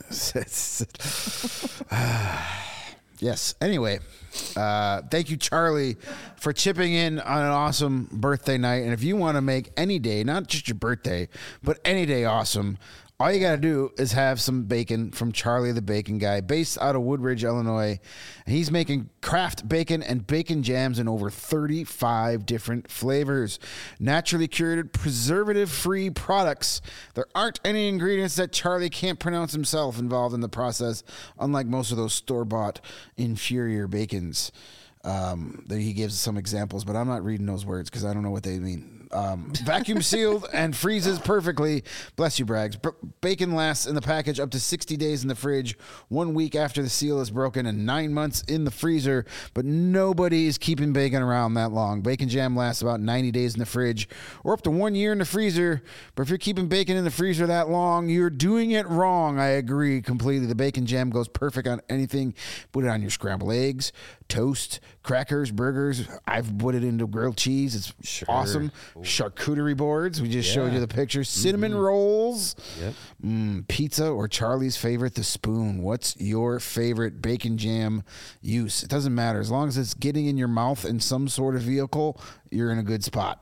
Yes. Anyway, thank you, Charlie, for chipping in on an awesome birthday night. And if you want to make any day, not just your birthday, but any day awesome, all you got to do is have some bacon from Charlie the Bacon Guy, based out of Woodridge, Illinois. And he's making craft bacon and bacon jams in over 35 different flavors. Naturally curated, preservative-free products. There aren't any ingredients that Charlie can't pronounce himself involved in the process, unlike most of those store-bought inferior bacons. He gives some examples, but I'm not reading those words because I don't know what they mean. Vacuum sealed and freezes perfectly. Bless you, Braggs. Bacon lasts in the package up to 60 days in the fridge, 1 week after the seal is broken, and 9 months in the freezer. But nobody is keeping bacon around that long. Bacon jam lasts about 90 days in the fridge or up to 1 year in the freezer. But if you're keeping bacon in the freezer that long, you're doing it wrong. I agree completely. The bacon jam goes perfect on anything. Put it on your scrambled eggs, toast, crackers, burgers. I've put it into grilled cheese. It's awesome. Charcuterie boards. We just showed you the picture. Cinnamon rolls. Yep. Pizza, or Charlie's favorite, the spoon. What's your favorite bacon jam use? It doesn't matter. As long as it's getting in your mouth in some sort of vehicle, you're in a good spot.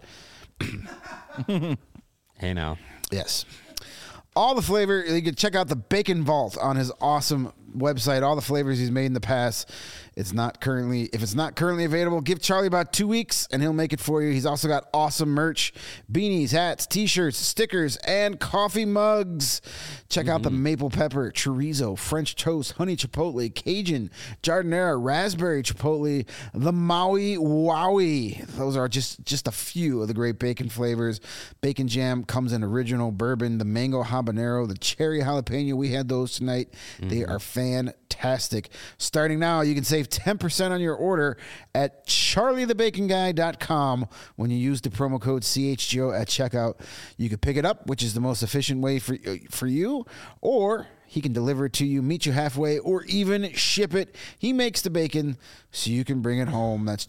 Hey, now. Yes. All the flavor, you can check out the Bacon Vault on his awesome website. All the flavors he's made in the past. If it's not currently available, give Charlie about 2 weeks and he'll make it for you. He's also got awesome merch, beanies, hats, t-shirts, stickers, and coffee mugs. Check out the maple pepper, chorizo, French toast, honey chipotle, Cajun, jardinera, raspberry chipotle, the Maui Wowie. Those are just a few of the great bacon flavors. Bacon jam comes in original bourbon, the mango habanero, the cherry jalapeno. We had those tonight. They are fantastic. Starting now, you can save 10% on your order at charliethebaconguy.com when you use the promo code CHGO at checkout. You can pick it up, which is the most efficient way for you, or he can deliver it to you, meet you halfway, or even ship it. He makes the bacon so you can bring it home. That's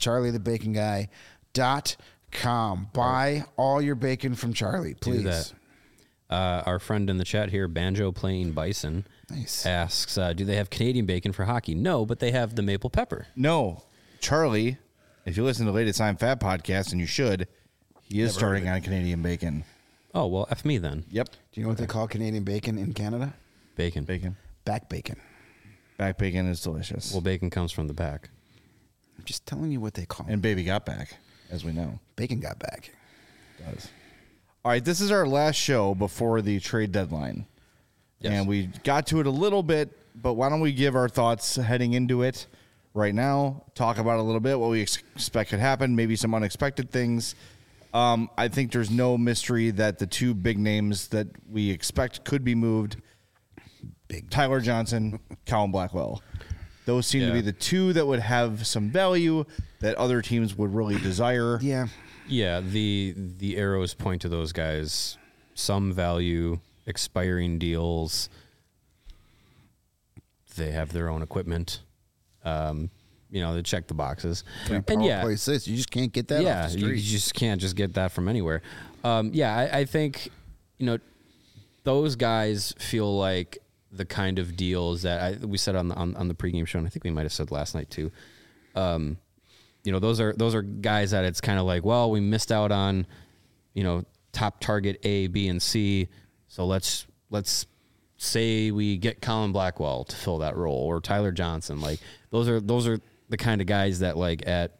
charliethebaconguy.com. Buy all your bacon from Charlie, please. Do that. Our friend in the chat here, Banjo Playing Bison, asks, do they have Canadian bacon for hockey? No, but they have the maple pepper. No. Charlie, if you listen to the latest I'm Fat podcast, and you should, he is starting on Canadian bacon. Oh, well, F me then. Yep. Do you know what they call Canadian bacon in Canada? Bacon. Back bacon. Back bacon is delicious. Well, bacon comes from the back. I'm just telling you what they call it. And baby got back, as we know. Bacon got back. It does. All right, this is our last show before the trade deadline. Yes. And we got to it a little bit, but why don't we give our thoughts heading into it right now, talk about a little bit what we expect could happen, maybe some unexpected things. I think there's no mystery that the two big names that we expect could be moved, Tyler Johnson, Colin Blackwell. Those seem to be the two that would have some value that other teams would really desire. Yeah. Yeah, the arrows point to those guys. Some value, expiring deals. They have their own equipment. They check the boxes. And Power play assists. You just can't get that off the you street. just can't just get that from anywhere. I think, those guys feel like the kind of deals that we said on the pregame show, and I think we might have said last night too. Those are guys that it's kind of like, well, we missed out on, top target A, B, and C. So let's say we get Colin Blackwell to fill that role, or Tyler Johnson. Like those are the kind of guys that, like, at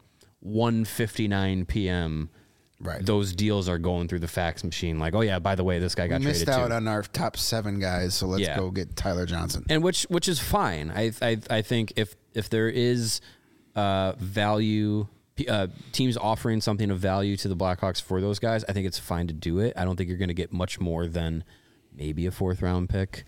1:59 p.m. Right. those deals are going through the fax machine. Like, oh yeah, by the way, this guy got We missed traded out too. on our top 7 guys, so let's go get Tyler Johnson. And which is fine. I think if there is value, teams offering something of value to the Blackhawks for those guys, I think it's fine to do it. I don't think you're going to get much more than maybe a 4th round pick.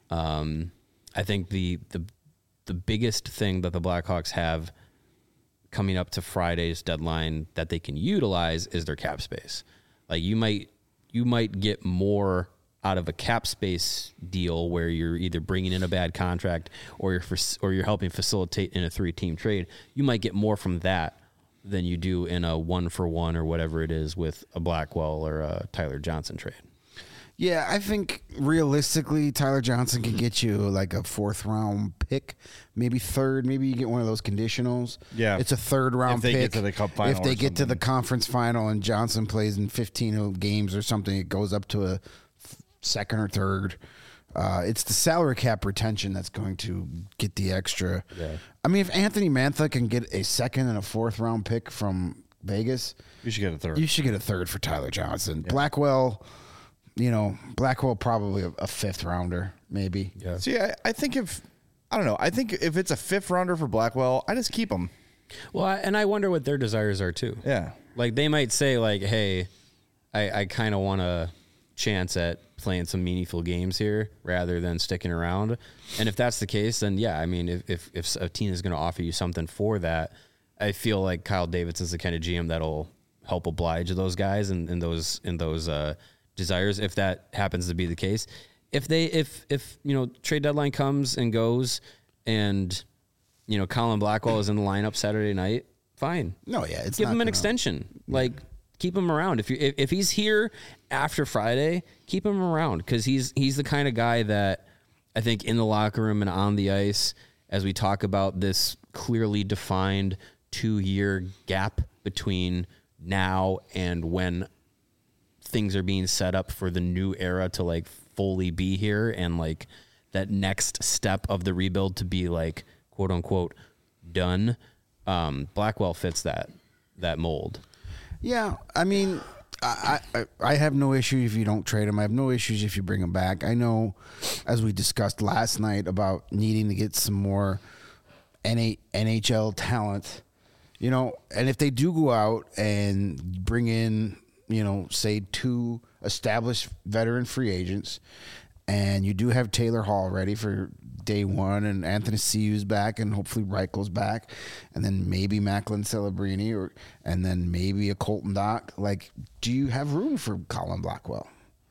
I think the biggest thing that the Blackhawks have coming up to Friday's deadline that they can utilize is their cap space. Like you might get more out of a cap space deal where you're either bringing in a bad contract or you're helping facilitate in a 3-team trade. You might get more from that than you do in a 1-for-1 or whatever it is with a Blackwell or a Tyler Johnson trade. Yeah, I think realistically, Tyler Johnson can get you like a 4th round pick, maybe 3rd. Maybe you get one of those conditionals. Yeah. It's a 3rd round If they pick. get to the cup final If they or get to the something. conference final and Johnson plays in 15 games or something, it goes up to a 2nd or 3rd. It's the salary cap retention that's going to get the extra. Yeah. I mean, if Anthony Mantha can get a 2nd and a 4th round pick from Vegas, You should get a 3rd. you should get a 3rd for Tyler Johnson. Blackwell, probably a 5th rounder, maybe. Yeah. See, I think if it's a 5th rounder for Blackwell, I just keep him. Well, and I wonder what their desires are too. Yeah. Like they might say like, hey, I kind of want a chance at playing some meaningful games here rather than sticking around. And if that's the case, then yeah, I mean, if a team is going to offer you something for that, I feel like Kyle Davidson's the kind of GM that'll help oblige those guys and those desires, if that happens to be the case. If trade deadline comes and goes and Colin Blackwell is in the lineup Saturday night, fine. No, yeah, it's give not him an gonna- extension. Like keep him around. If he's here after Friday, keep him around because he's the kind of guy that I think in the locker room and on the ice, as we talk about this clearly defined 2-year gap between now and when things are being set up for the new era to like fully be here and like that next step of the rebuild to be like quote unquote done. Blackwell fits that mold. Yeah, I mean, I have no issue if you don't trade him. I have no issues if you bring him back. I know, as we discussed last night, about needing to get some more NHL talent, and if they do go out and bring in, say 2 established veteran free agents, and you do have Taylor Hall ready for day 1, and Anthony Ciu's back, and hopefully Reichel's back, and then maybe Macklin Celebrini, and then maybe a Colton Dock. Like, do you have room for Colin Blackwell?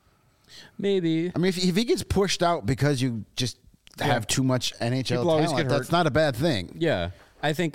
Maybe. I mean, if he gets pushed out because you just have too much NHL People always talent, get hurt. that's not a bad thing. Yeah. I think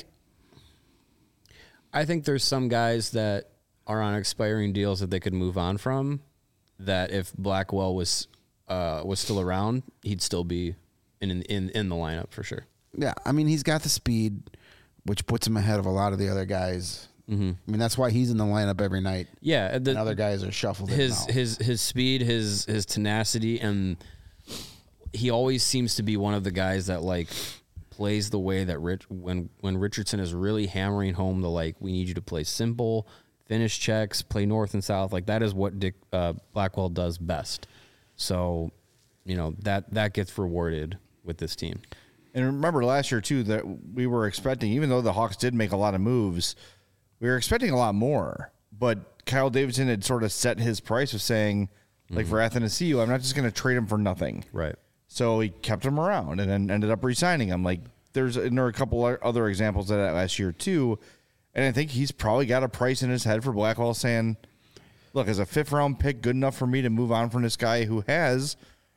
there's some guys that are on expiring deals that they could move on from, that if Blackwell was still around, he'd still be in the lineup for sure. Yeah, I mean, he's got the speed, which puts him ahead of a lot of the other guys. Mm-hmm. I mean, that's why he's in the lineup every night. Yeah, And other guys are shuffled in and out. his speed, his tenacity, and he always seems to be one of the guys that like plays the way that when Richardson is really hammering home the like, we need you to play simple, finish checks, play north and south. Like that is what Blackwell does best. So, that gets rewarded with this team. And remember last year too that we were expecting, even though the Hawks did make a lot of moves, we were expecting a lot more. But Kyle Davidson had sort of set his price of saying, like for Athanasiou, I'm not just going to trade him for nothing. Right. So he kept him around and then ended up re-signing him. Like there are a couple other examples of that last year too. And I think he's probably got a price in his head for Blackwell saying, look, is a 5th round pick good enough for me to move on from this guy who has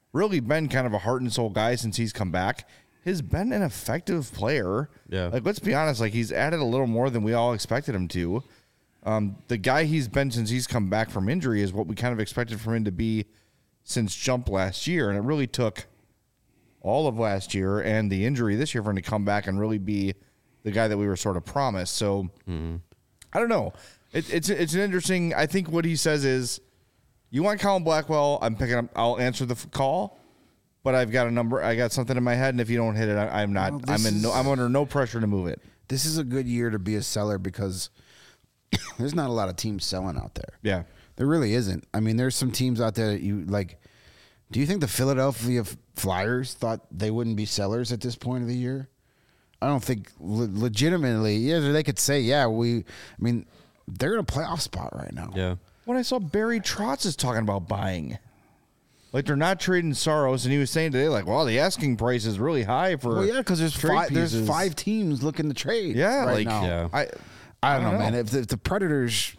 really been kind of a heart and soul guy since he's come back, has been an effective player. Yeah. Like, let's be honest, like, he's added a little more than we all expected him to. The guy he's been since he's come back from injury is what we kind of expected from him to be since jump last year. And it really took all of last year and the injury this year for him to come back and really be the guy that we were sort of promised. So I don't know. It's an interesting, I think what he says is, you want Colin Blackwell, I'm picking up, I'll answer the call, but I've got a number, I got something in my head, and if you don't hit it, I'm not, Well, I'm under no pressure to move it. This is a good year to be a seller because there's not a lot of teams selling out there. Yeah. There really isn't. I mean, there's some teams out there that you like. Do you think the Philadelphia Flyers thought they wouldn't be sellers at this point of the year? I don't think legitimately. Yeah, they could say, yeah, I mean, they're in a playoff spot right now. Yeah. When I saw Barry Trotz is talking about buying, like they're not trading Saros, and he was saying today, like, well, the asking price is really high for. Well, yeah, because trade there's pieces. 5 teams looking to trade. Yeah, right like now. Yeah. I don't know, man. If the Predators,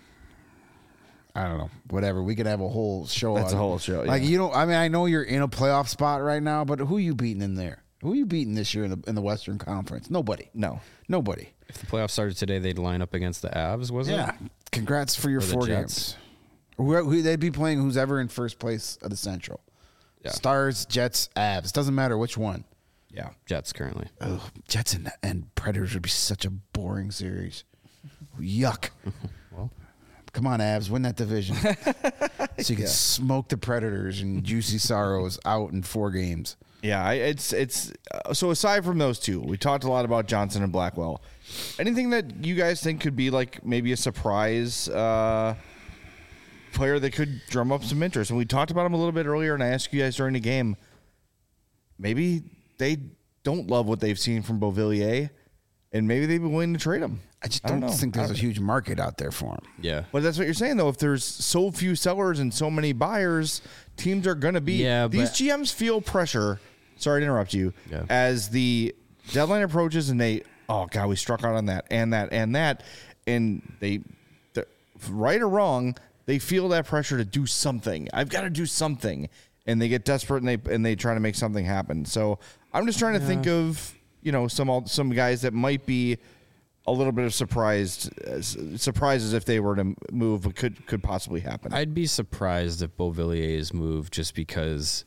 I don't know, whatever. We could have a whole show. That's on a whole show, Like yeah. I mean, I know you're in a playoff spot right now, but who are you beating in there? Who are you beating this year in the Western Conference? Nobody. No. Nobody. If the playoffs started today, they'd line up against the Avs, was it? Yeah. Congrats for your Or the 4 Jets. games. Who they'd be playing who's ever in first place of the Central. Yeah. Stars, Jets, Avs. Doesn't matter which one. Yeah. Jets currently. Ugh, Jets and Predators would be such a boring series. Yuck. Well, Come on, Avs, win that division. So you can smoke the Predators and Juicy Sorrows out in 4 games. Yeah, it's so aside from those two, we talked a lot about Johnson and Blackwell. Anything that you guys think could be like maybe a surprise player that could drum up some interest? And we talked about him a little bit earlier, and I asked you guys during the game, maybe they don't love what they've seen from Beauvillier, and maybe they'd be willing to trade him. I just don't know. think there's a huge market out there for him. yeah. But that's what you're saying, though. If there's so few sellers and so many buyers, teams are going to be. Yeah, these but- GMs feel pressure. Sorry to interrupt you. Yeah. As the deadline approaches, and oh god, we struck out on that and that and that, and they, right or wrong, they feel that pressure to do something. I've got to do something, and they get desperate and they try to make something happen. So I'm just trying to think of some guys that might be a little bit of surprises if they were to move, but could possibly happen. I'd be surprised if Beauvillier's moved just because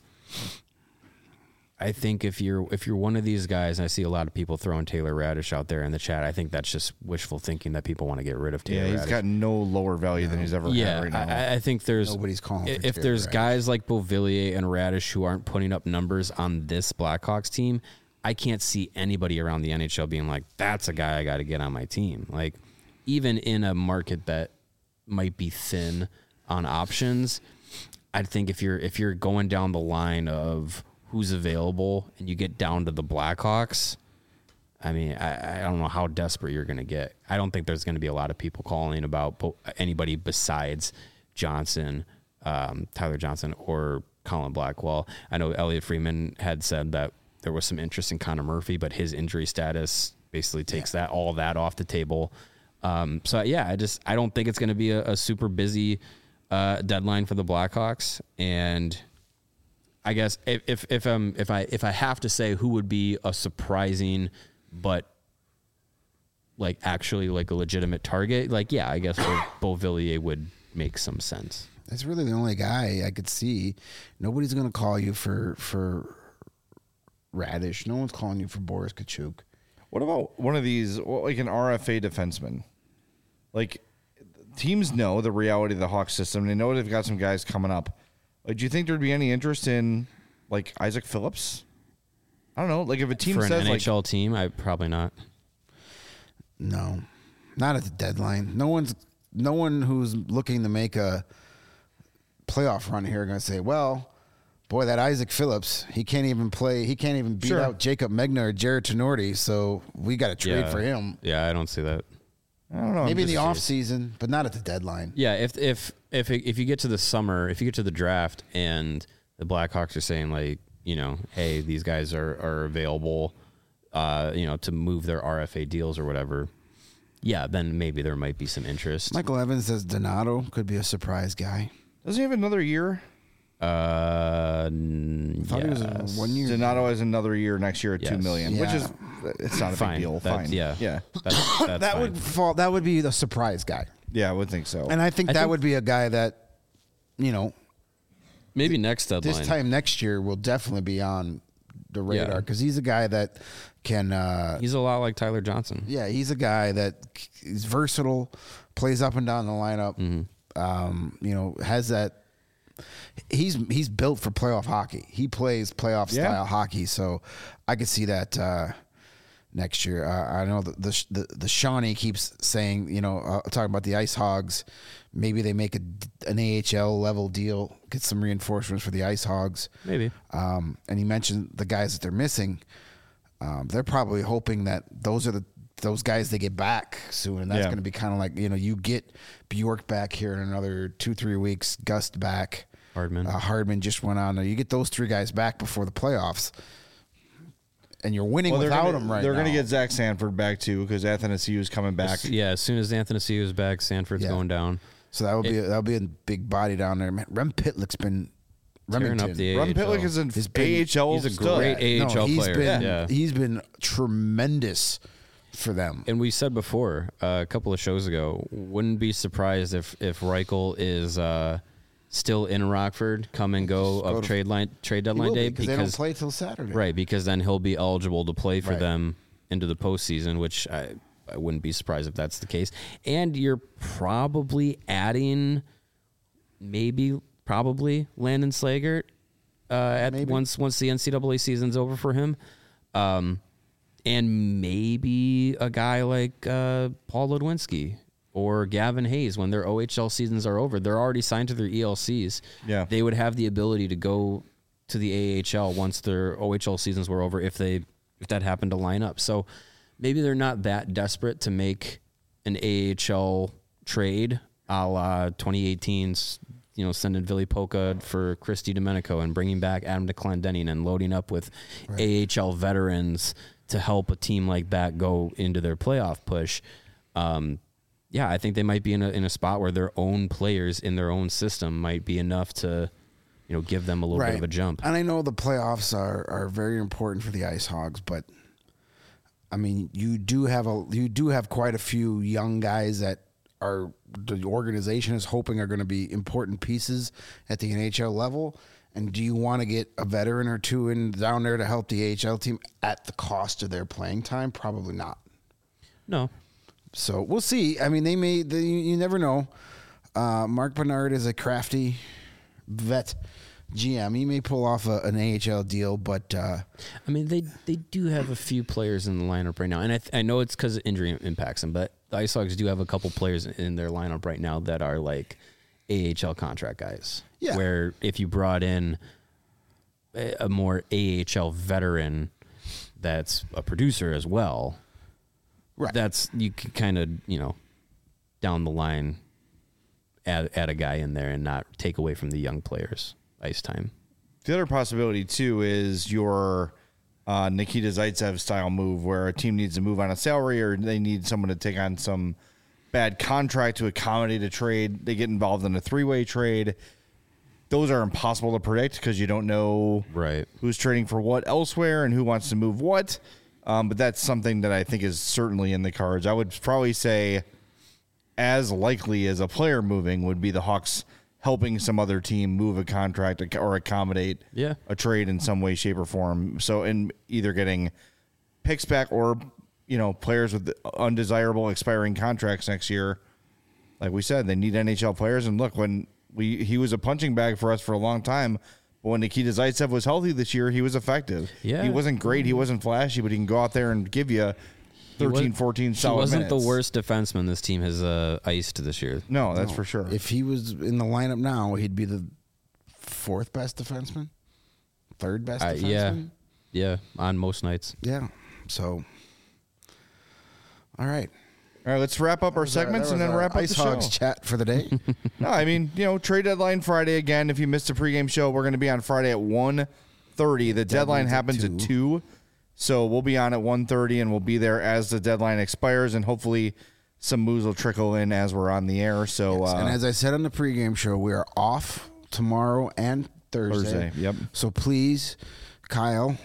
I think if you're one of these guys, and I see a lot of people throwing Taylor Radish out there in the chat, I think that's just wishful thinking that people want to get rid of Taylor He's Radish. got no lower value than he's ever had right now. I think there's Nobody's calling for if Taylor there's Radish. guys like Beauvillier and Radish who aren't putting up numbers on this Blackhawks team, I can't see anybody around the NHL being like, that's a guy I got to get on my team. Like, even in a market that might be thin on options, I think if you're going down the line of who's available and you get down to the Blackhawks, I mean, I don't know how desperate you're going to get. I don't think there's going to be a lot of people calling about anybody besides Johnson, Tyler Johnson, or Colin Blackwell. I know Elliot Freeman had said that there was some interest in Connor Murphy, but his injury status basically takes all that off the table. So yeah, I don't think it's going to be a super busy deadline for the Blackhawks. And I guess if I have to say who would be a surprising but like actually like a legitimate target, like yeah, I guess Beauvillier would make some sense. That's really the only guy I could see. Nobody's going to call you for Radish. No one's calling you for Boris Kachuk. What about one of these, like an RFA defenseman? Like, teams know the reality of the Hawks system. They know they've got some guys coming up. Like, do you think there'd be any interest in, like, Isaac Phillips? I don't know. Like, if a team For an says, NHL team, I probably not. No, not at the deadline. No one who's looking to make a playoff run here are going to say, well, boy, that Isaac Phillips, he can't even play. He can't even beat out Jacob Megna or Jared Tenorti, so we got to trade for him. Yeah, I don't see that. I don't know. Maybe in the I'm off just season, but not at the deadline. Yeah, if you get to the summer, if you get to the draft and the Blackhawks are saying like, hey, these guys are available, to move their RFA deals or whatever, yeah, then maybe there might be some interest. Michael Evans says Donato could be a surprise guy. Doesn't he have another year? I thought he was Yes. 1 year. Donato has another year next year at Yes. $2 million, which Yeah. is it's not a Fine. big deal. That's- Fine. yeah. Yeah. That's That fine. would fall. That would be the surprise guy, Yeah, I would think so. and I think that would be a guy that, you know, Maybe next deadline. this time next year will definitely be on the radar because he's a guy that can. He's a lot like Tyler Johnson. Yeah, he's a guy that is versatile, plays up and down the lineup. You know, has that. He's built for playoff hockey. He plays playoff style hockey, so I could see that next year. I know that the Shawnee keeps saying, you know, talking about the Ice Hogs. Maybe they make an AHL level deal, get some reinforcements for the Ice Hogs. Maybe. And he mentioned the guys that they're missing. They're probably hoping that those are those guys they get back soon, and that's going to be kind of like, you know, you get Bjork back here in another 2-3 weeks, Gust back, Hardman just went on there. You get those 3 guys back before the playoffs, and you're winning without them right now. They're going to get Zach Sanford back too because Athanasiou is coming back. Yeah, as soon as Athanasiou is back, Sanford's going down. So that'll be a big body down there. Man, Rem Pitlick's been Tearing up the Ron AHL. Pitlick is an AHL. He's a stud. great AHL he's player. Been, He's been tremendous for them. And we said before, a couple of shows ago, wouldn't be surprised if Reichel is still in Rockford, come and go of trade deadline day because they don't play till Saturday. Right, because then he'll be eligible to play for them into the postseason, which I wouldn't be surprised if that's the case. And you're probably adding probably Landon Slagert once the NCAA season's over for him. And maybe a guy like Paul Ludwinski or Gavin Hayes when their OHL seasons are over. They're already signed to their ELCs. Yeah. They would have the ability to go to the AHL once their OHL seasons were over if that happened to line up. So maybe they're not that desperate to make an AHL trade a la 2018's, sending Ville Polka for Christy Domenico and bringing back Adam DeClendening and loading up with AHL veterans to help a team like that go into their playoff push. I think they might be in a spot where their own players in their own system might be enough to, give them a little bit of a jump. And I know the playoffs are very important for the Ice Hogs, but I mean, you do have quite a few young guys that the organization is hoping are going to be important pieces at the NHL level. And do you want to get a veteran or two down there to help the AHL team at the cost of their playing time? Probably not. No. So we'll see. I mean, you never know. Mark Bernard is a crafty vet GM. He may pull off an AHL deal, but I mean, they do have a few players in the lineup right now, and I know it's because injury impacts them, but the Ice Hogs do have a couple players in their lineup right now that are like AHL contract guys. Yeah. Where if you brought in a more AHL veteran that's a producer as well, right. that's you could kind of down the line add a guy in there and not take away from the young players ice time. The other possibility too is your Nikita Zaitsev style move, where a team needs to move on a salary or they need someone to take on some bad contract to accommodate a trade. They get involved in a 3-way trade. Those are impossible to predict because you don't know who's trading for what elsewhere and who wants to move what. But that's something that I think is certainly in the cards. I would probably say as likely as a player moving would be the Hawks helping some other team move a contract or accommodate a trade in some way, shape, or form. So in either getting picks back or, players with undesirable expiring contracts next year. Like we said, they need NHL players. And look, when he was a punching bag for us for a long time, but when Nikita Zaitsev was healthy this year, he was effective. Yeah. He wasn't great. He wasn't flashy, but he can go out there and give you 13, 14 solid He wasn't minutes. the worst defenseman this team has iced this year. No, that's for sure. If he was in the lineup now, he'd be the 4th best defenseman, 3rd best defenseman. Yeah, on most nights. Yeah. So, all right. All right, let's wrap up our segments and then wrap up Ice the Hogs show. chat for the day. No, I mean, trade deadline Friday again. If you missed the pregame show, we're going to be on Friday at 1:30. The deadline happens at 2. So we'll be on at 1:30 and we'll be there as the deadline expires, and hopefully some moves will trickle in as we're on the air. So And as I said on the pregame show, we are off tomorrow and Thursday. Yep. So please, Kyle,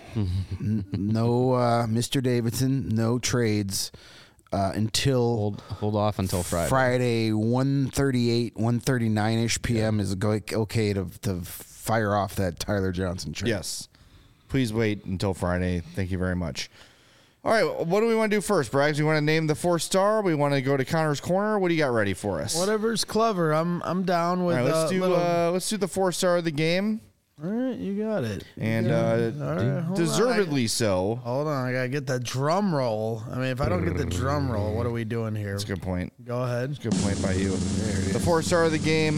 no Mr. Davidson, no trades until Hold off until Friday. Friday, 1:38, 1:39-ish p.m. is okay to fire off that Tyler Johnson trade. Yes. Please wait until Friday. Thank you very much. All right, what do we want to do first, Braggs? We want to name the 4-star. We want to go to Connor's Corner. What do you got ready for us? Whatever's clever. I'm down with. All right, let's do the 4-star of the game, All right, you got it. and All right, hold deservedly so. on. Hold on, I gotta get that drum roll. I mean, if I don't get the drum roll, what are we doing here? That's a good point. Go ahead. Good point by you. The 4-star of the game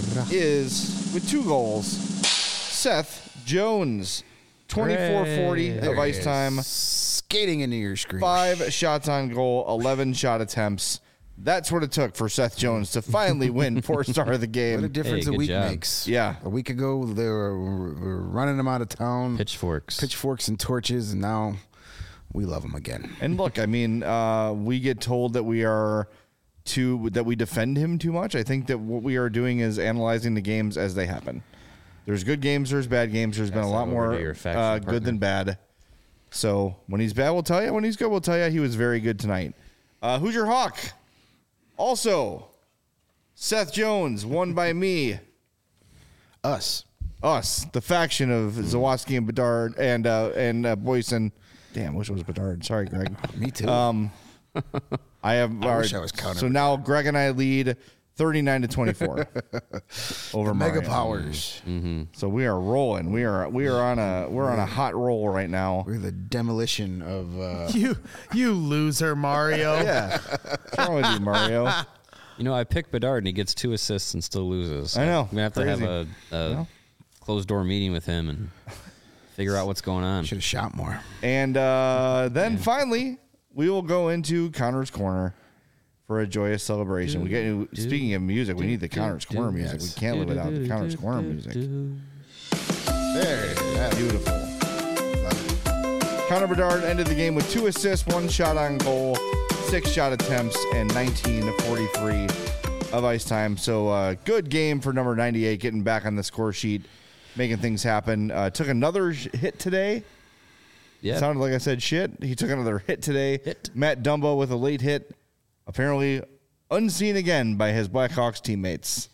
is, with 2 goals, Seth Jones. 24-40 of ice time. Skating into your screen. 5 shots on goal, 11 shot attempts. That's what it took for Seth Jones to finally win 4-star of the What a game. difference Hey, a good week job. makes. Yeah. A week ago, they were running them out of town. Pitchforks. And torches, and now we love them again. And look, I mean, we get told that we defend him too much. I think that what we are doing is analyzing the games as they happen. There's good games, there's bad games. There's been a lot more good than bad. So when he's bad, we'll tell you. When he's good, we'll tell you. He was very good tonight. Who's your Hawk? Also, Seth Jones, won by me. Us, The faction of Zawaski and Bedard and Boyson. Damn, wish it was Bedard. Sorry, Greg. me too. I have. I wish I was counting So now Greg and I lead 39-24 over Mega Mario. Powers. So we are rolling. We're on a hot roll right now. We're the demolition of. You loser, Mario. Yeah, what's wrong with you, Mario? You know, I picked Bedard and he gets 2 assists and still loses. I know. I'm gonna have to Crazy. have a closed door meeting with him and figure out what's going on. Should have shot more. And then finally, we will go into Connor's Corner for a joyous celebration. We get. Speaking of music, we need the Connor's Corner music. We can't live without the Connor's Corner music. There, Beautiful. Connor Bedard ended the game with 2 assists, 1 shot on goal, 6 shot attempts, and 19-43 of ice time. So good game for number 98, getting back on the score sheet, making things happen. Took another hit today. Yeah. Sounded like I said shit. He took another hit today. Hit. Matt Dumbo with a late hit. Apparently unseen again by his Blackhawks teammates.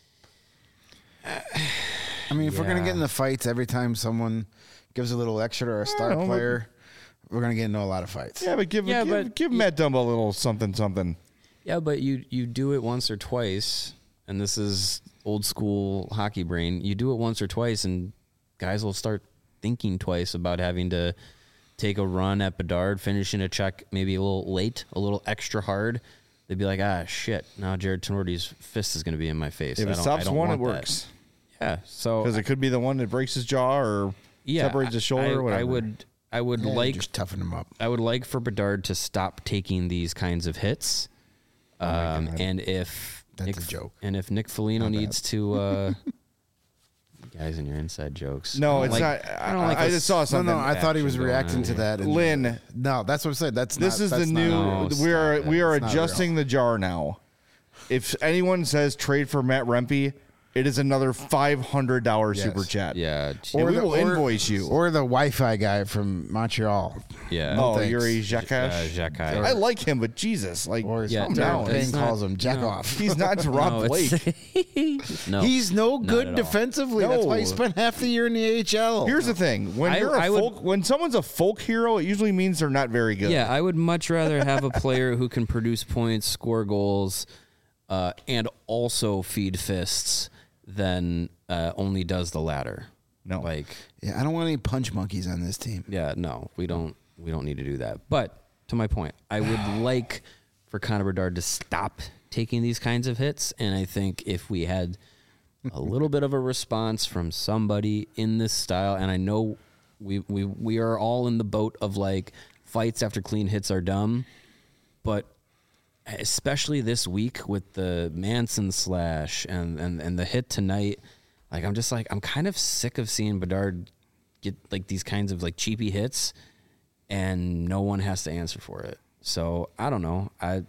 I mean, if we're gonna get in the fights every time someone gives a little extra to our star know, player, we're gonna get into a lot of fights. Yeah, but give Matt Dumbo a little something. Yeah, but you do it once or twice, and this is old school hockey brain. You do it once or twice, and guys will start thinking twice about having to take a run at Bedard, finishing a check maybe a little late, a little extra hard. They'd be like, shit, now Jared Tenorti's fist is going to be in my face. If it stops one, it works. Yeah, so Because it could be the one that breaks his jaw or separates his shoulder or whatever. I would Yeah, like just toughen them up. I would like for Bedard to stop taking these kinds of hits. And if That's a joke. And if Nick Foligno needs to, guys in your inside jokes. No, it's not. I just saw No, something. no, I thought he was Action going reacting on to here. that. And Lynn, no, that's what I said. That's this not, is the that's new. not- No, we are stop we are It's not adjusting the jar now. If anyone says trade for Matt Rempe, it is another $500 Yes. super chat. Yeah, And we will invoice you. Or the Wi-Fi guy from Montreal. yeah. Oh, thanks. Yuri Jakash. Jacques. I like him, but Jesus, like, Or as Yeah, Tom no, Payne he's not- calls him, jack no. off. he's not Rob Blake. no, He's no not good at all. defensively. That's why he No. spent half the year in the AHL. Here's the thing: when when someone's a folk hero, it usually means they're not very good. Yeah, I would much rather have a player who can produce points, score goals, and also feed fists than only does the latter. No. Like, Yeah, I don't want any punch monkeys on this team. yeah, no, we don't need to do that. But to my point, I would like for Connor Bedard to stop taking these kinds of hits, and I think if we had a little bit of a response from somebody in this style, and I know we are all in the boat of like fights after clean hits are dumb, but especially this week with the Manson slash and the hit tonight, like I'm kind of sick of seeing Bedard get like these kinds of like cheapy hits and no one has to answer for it. So I don't know.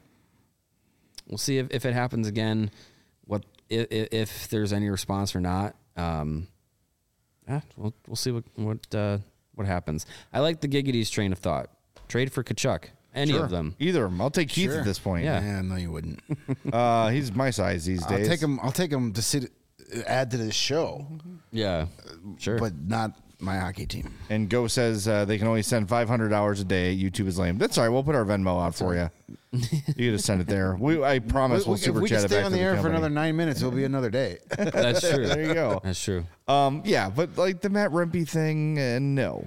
We'll see if it happens again. What if there's any response or not? We'll see what happens. I like the Giggity's train of thought. Trade for Kachuk. Any of them. Either of them. I'll take Keith Sure. at this point. Yeah. No, you wouldn't. He's my size these days. I'll take him to sit, add to this show, Yeah, sure. but not my hockey team. And Go says they can only send $500 a day. YouTube is lame. That's all right. We'll put our Venmo out for you. You just send it there. I promise we'll If super we chat can it stay back on to the air for company. another 9 minutes, it'll be another day. That's true. There you go. That's true. Yeah, but like the Matt Rempe thing, no.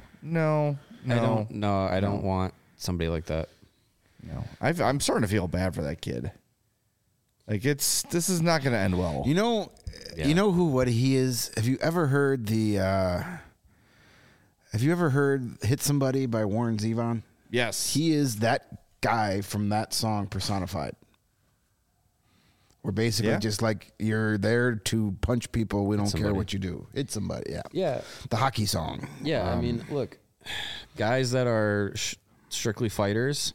I don't want somebody like that. No. I'm starting to feel bad for that kid. Like this is not going to end well. You know, Yeah. you know what he is. Have you ever heard "Hit Somebody" by Warren Zevon? Yes. He is that guy from that song personified. We're basically Yeah. just like, you're there to punch people. We don't care somebody. what you do. Hit somebody. Yeah. Yeah. The hockey song. Yeah, I mean, look, guys that are strictly fighters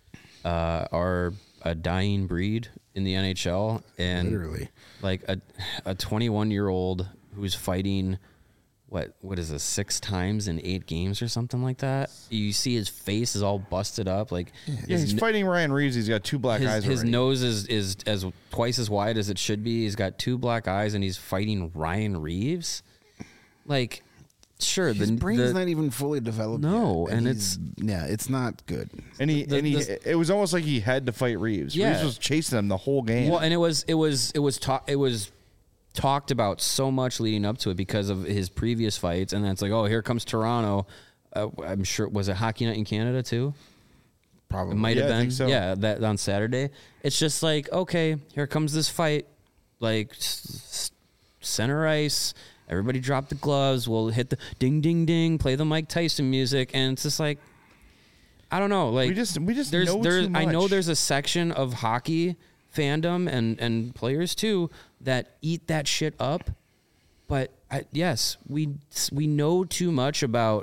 are a dying breed in the NHL, and Literally. like a 21-year-old who's fighting what is this 6 times in 8 games or something like that. You see his face is all busted up, like Yeah, he's fighting Ryan Reeves. He's got 2 black eyes his already. nose is as twice as wide as it should be. He's got 2 black eyes, and he's fighting Ryan Reeves. Like, sure, His brain's not even fully developed. No, yet, and it's not good. And it was almost like he had to fight Reeves. Yeah. Reeves was chasing him the whole game. well, and it was talked about so much leading up to it because of his previous fights, and then it's like, oh, here comes Toronto. I'm sure, was it Hockey Night in Canada too? Probably. It might Yeah, have I been. think so. Yeah, that on Saturday. It's just like, okay, here comes this fight. Like center ice. Everybody drop the gloves. We'll hit the ding, ding, ding. Play the Mike Tyson music, and it's just like, I don't know. Like we just there's know there's too I know much. there's a section of hockey fandom and players too that eat that shit up. But yes, we know too much about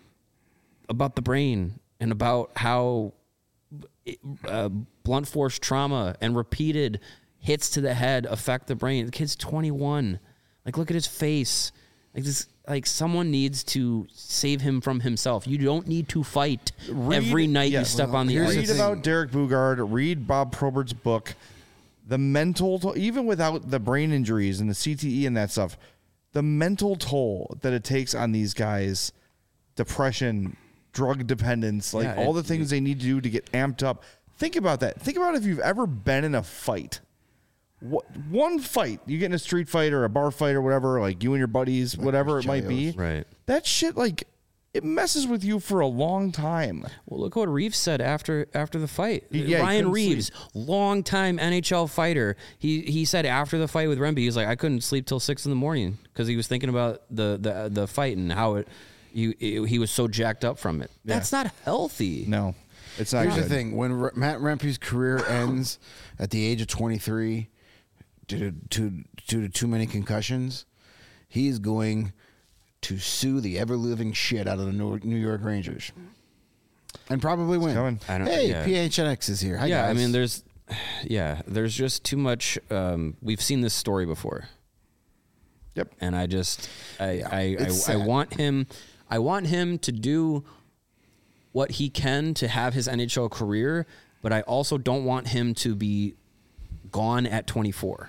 the brain and about how blunt force trauma and repeated hits to the head affect the brain. The kid's 21. Like, look at his face. Like this. Like, someone needs to save him from himself. You don't need to fight every night you step on the here's the ice. Read about Derek Bugard. Read Bob Probert's book. The mental, even without the brain injuries and the CTE and that stuff, the mental toll that it takes on these guys, depression, drug dependence, like Yeah, all the things they need to do to get amped up. Think about that. Think about if you've ever been in a fight. One fight, you get in a street fight or a bar fight or whatever, like you and your buddies, whatever it might be. Right. That shit, like, it messes with you for a long time. Well, look what Reeves said after the fight. He Ryan couldn't Reeves, longtime NHL fighter. He said after the fight with Rempe, he was like, I couldn't sleep till 6 a.m. because he was thinking about the fight and how he was so jacked up from it. That's not healthy. No, it's not Here's good. the thing: when Matt Rempe's career ends at the age of 23, due to too many concussions, he's going to sue the ever living shit out of the New York Rangers, and probably win. coming. Hey, PHNX is here. Hi, Yeah, guys. I mean, there's just too much. We've seen this story before. Yep. And I it's want sad. I want him to do what he can to have his NHL career, but I also don't want him to be gone at 24.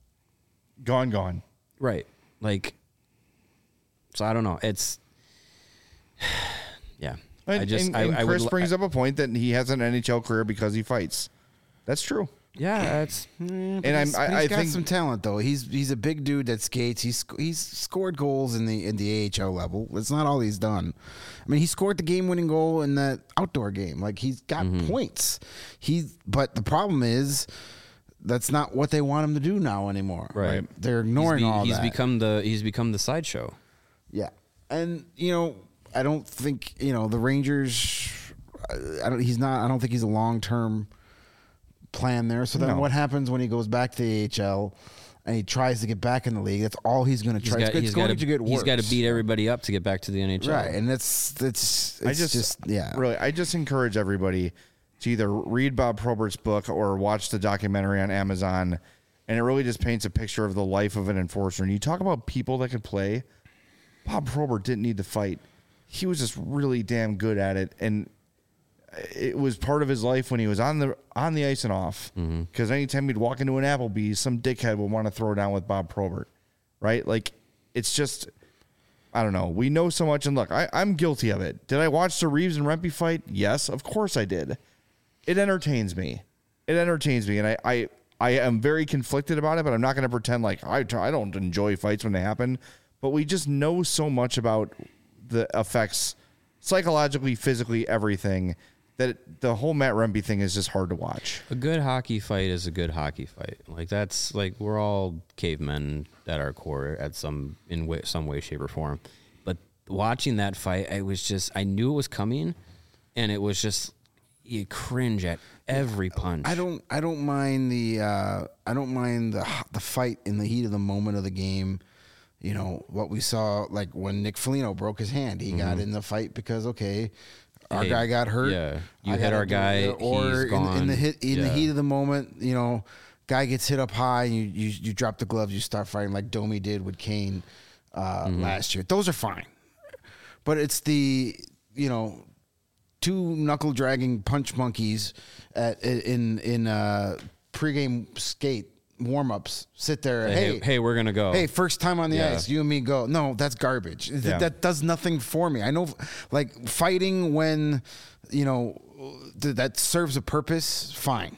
Gone. Right. Like, so I don't know. It's, yeah. And Chris brings up a point that he has an NHL career because he fights. That's true. yeah, that's, And He's I got think some talent though. He's a big dude that skates. He's scored goals in the AHL level. That's not all he's done. I mean, he scored the game-winning goal in that outdoor game. Like, he's got points. But the problem is that's not what they want him to do now anymore. Right. They're ignoring all he's that. He's become the sideshow. Yeah, and I don't think the Rangers. I don't think he's a long-term plan there. So then, No. what happens when he goes back to the AHL and he tries to get back in the league? That's all he's going to try. It's going to get worse. He's got to beat everybody up to get back to the NHL. right, and it's really, I just encourage everybody to either read Bob Probert's book or watch the documentary on Amazon, and it really just paints a picture of the life of an enforcer. And you talk about people that could play. Bob Probert didn't need to fight. He was just really damn good at it, and it was part of his life when he was on the ice and off. Because anytime he'd walk into an Applebee's, some dickhead would want to throw down with Bob Probert, right? Like, it's just, I don't know. We know so much, and look, I'm guilty of it. Did I watch the Reeves and Rempe fight? Yes, of course I did. It entertains me. And I am very conflicted about it, but I'm not going to pretend like I don't enjoy fights when they happen. But we just know so much about the effects psychologically, physically, everything, that the whole Matt Rempe thing is just hard to watch. A good hockey fight is a good hockey fight. Like, that's like, we're all cavemen at our core at some way, shape, or form. But watching that fight, I knew it was coming, and it was just, you cringe at every punch. I don't mind the fight in the heat of the moment of the game. You know what we saw, like when Nick Foligno broke his hand, he got in the fight because our guy got hurt. Yeah, you hit our guy, or he's gone. in the heat of the moment, you know, guy gets hit up high, and you drop the gloves, you start fighting like Domi did with Kane last year. Those are fine, but it's the, you know, two knuckle dragging punch monkeys in pregame skate warm-ups sit there. Hey, we're gonna go. Hey, first time on the ice, you and me go. No, that's garbage. That does nothing for me. I know, like, fighting when, you know, that serves a purpose, fine.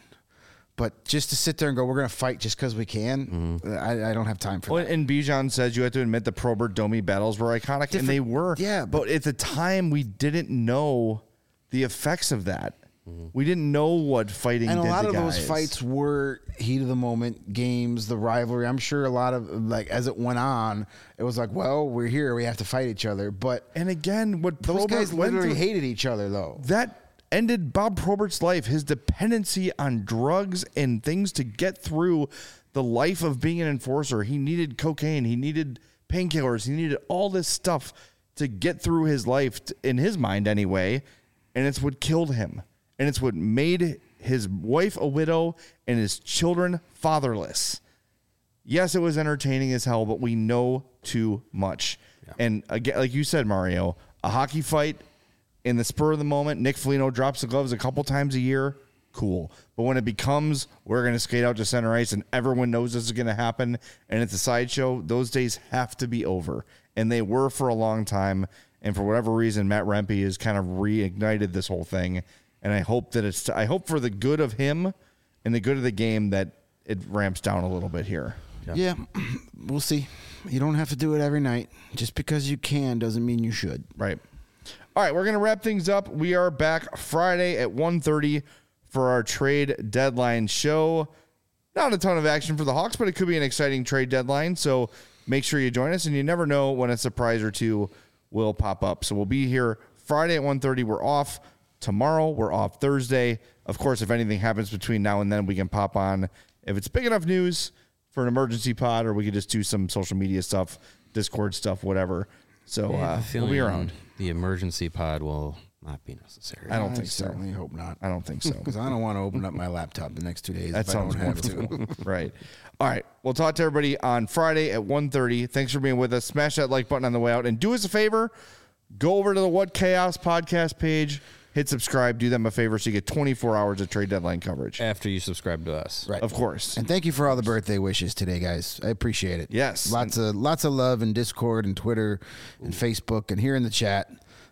But just to sit there and go, we're going to fight just because we can, I don't have time for that. And Bijan says you have to admit the Probert-Domi battles were iconic, and they were. Yeah. But at the time, we didn't know the effects of that. We didn't know what fighting did to guys. And a lot of those fights were heat of the moment games, the rivalry. I'm sure a lot of, like, as it went on, it was like, well, we're here, we have to fight each other. But and again, what those Probert guys literally hated each other, though. That ended Bob Probert's life, his dependency on drugs and things to get through the life of being an enforcer. He needed cocaine, he needed painkillers, he needed all this stuff to get through his life, in his mind anyway, and it's what killed him. And it's what made his wife a widow and his children fatherless. Yes, it was entertaining as hell, but we know too much. Yeah. And again, like you said, Mario, a hockey fight in the spur of the moment, Nick Foligno drops the gloves a couple times a year, cool. But when it becomes, we're going to skate out to center ice and everyone knows this is going to happen and it's a sideshow, those days have to be over. And they were for a long time. And for whatever reason, Matt Rempe has kind of reignited this whole thing. And I hope I hope for the good of him and the good of the game that it ramps down a little bit here. Yeah, we'll see. You don't have to do it every night. Just because you can doesn't mean you should. Right. All right, we're going to wrap things up. We are back Friday at 1:30 for our trade deadline show. Not a ton of action for the Hawks, but it could be an exciting trade deadline. So make sure you join us, and you never know when a surprise or two will pop up. So we'll be here Friday at 1:30. We're off. Tomorrow, we're off Thursday. Of course, if anything happens between now and then, we can pop on. If it's big enough news for an emergency pod, or we could just do some social media stuff, Discord stuff, whatever. So we'll be around. The emergency pod will not be necessary. I don't think so. Certainly hope not. I don't think so. Because I don't want to open up my laptop the next 2 days That if I don't sounds have to. Right. All right. We'll talk to everybody on Friday at 1:30. Thanks for being with us. Smash that like button on the way out. And do us a favor. Go over to the What Chaos podcast page. Hit subscribe. Do them a favor so you get 24 hours of trade deadline coverage. After you subscribe to us. Right. Of course. And thank you for all the birthday wishes today, guys. I appreciate it. Yes. Lots of love in Discord and Twitter and Facebook and here in the chat.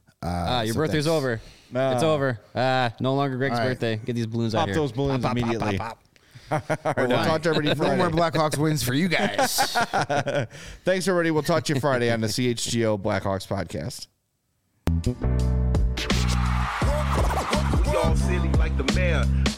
Your birthday's over. It's over. No longer Greg's birthday. Get these balloons out here. Pop those balloons immediately. Pop. All right, we'll talk to everybody No Friday. more Blackhawks wins for you guys. Thanks, everybody. We'll talk to you Friday on the CHGO Blackhawks podcast. We all silly like the mayor.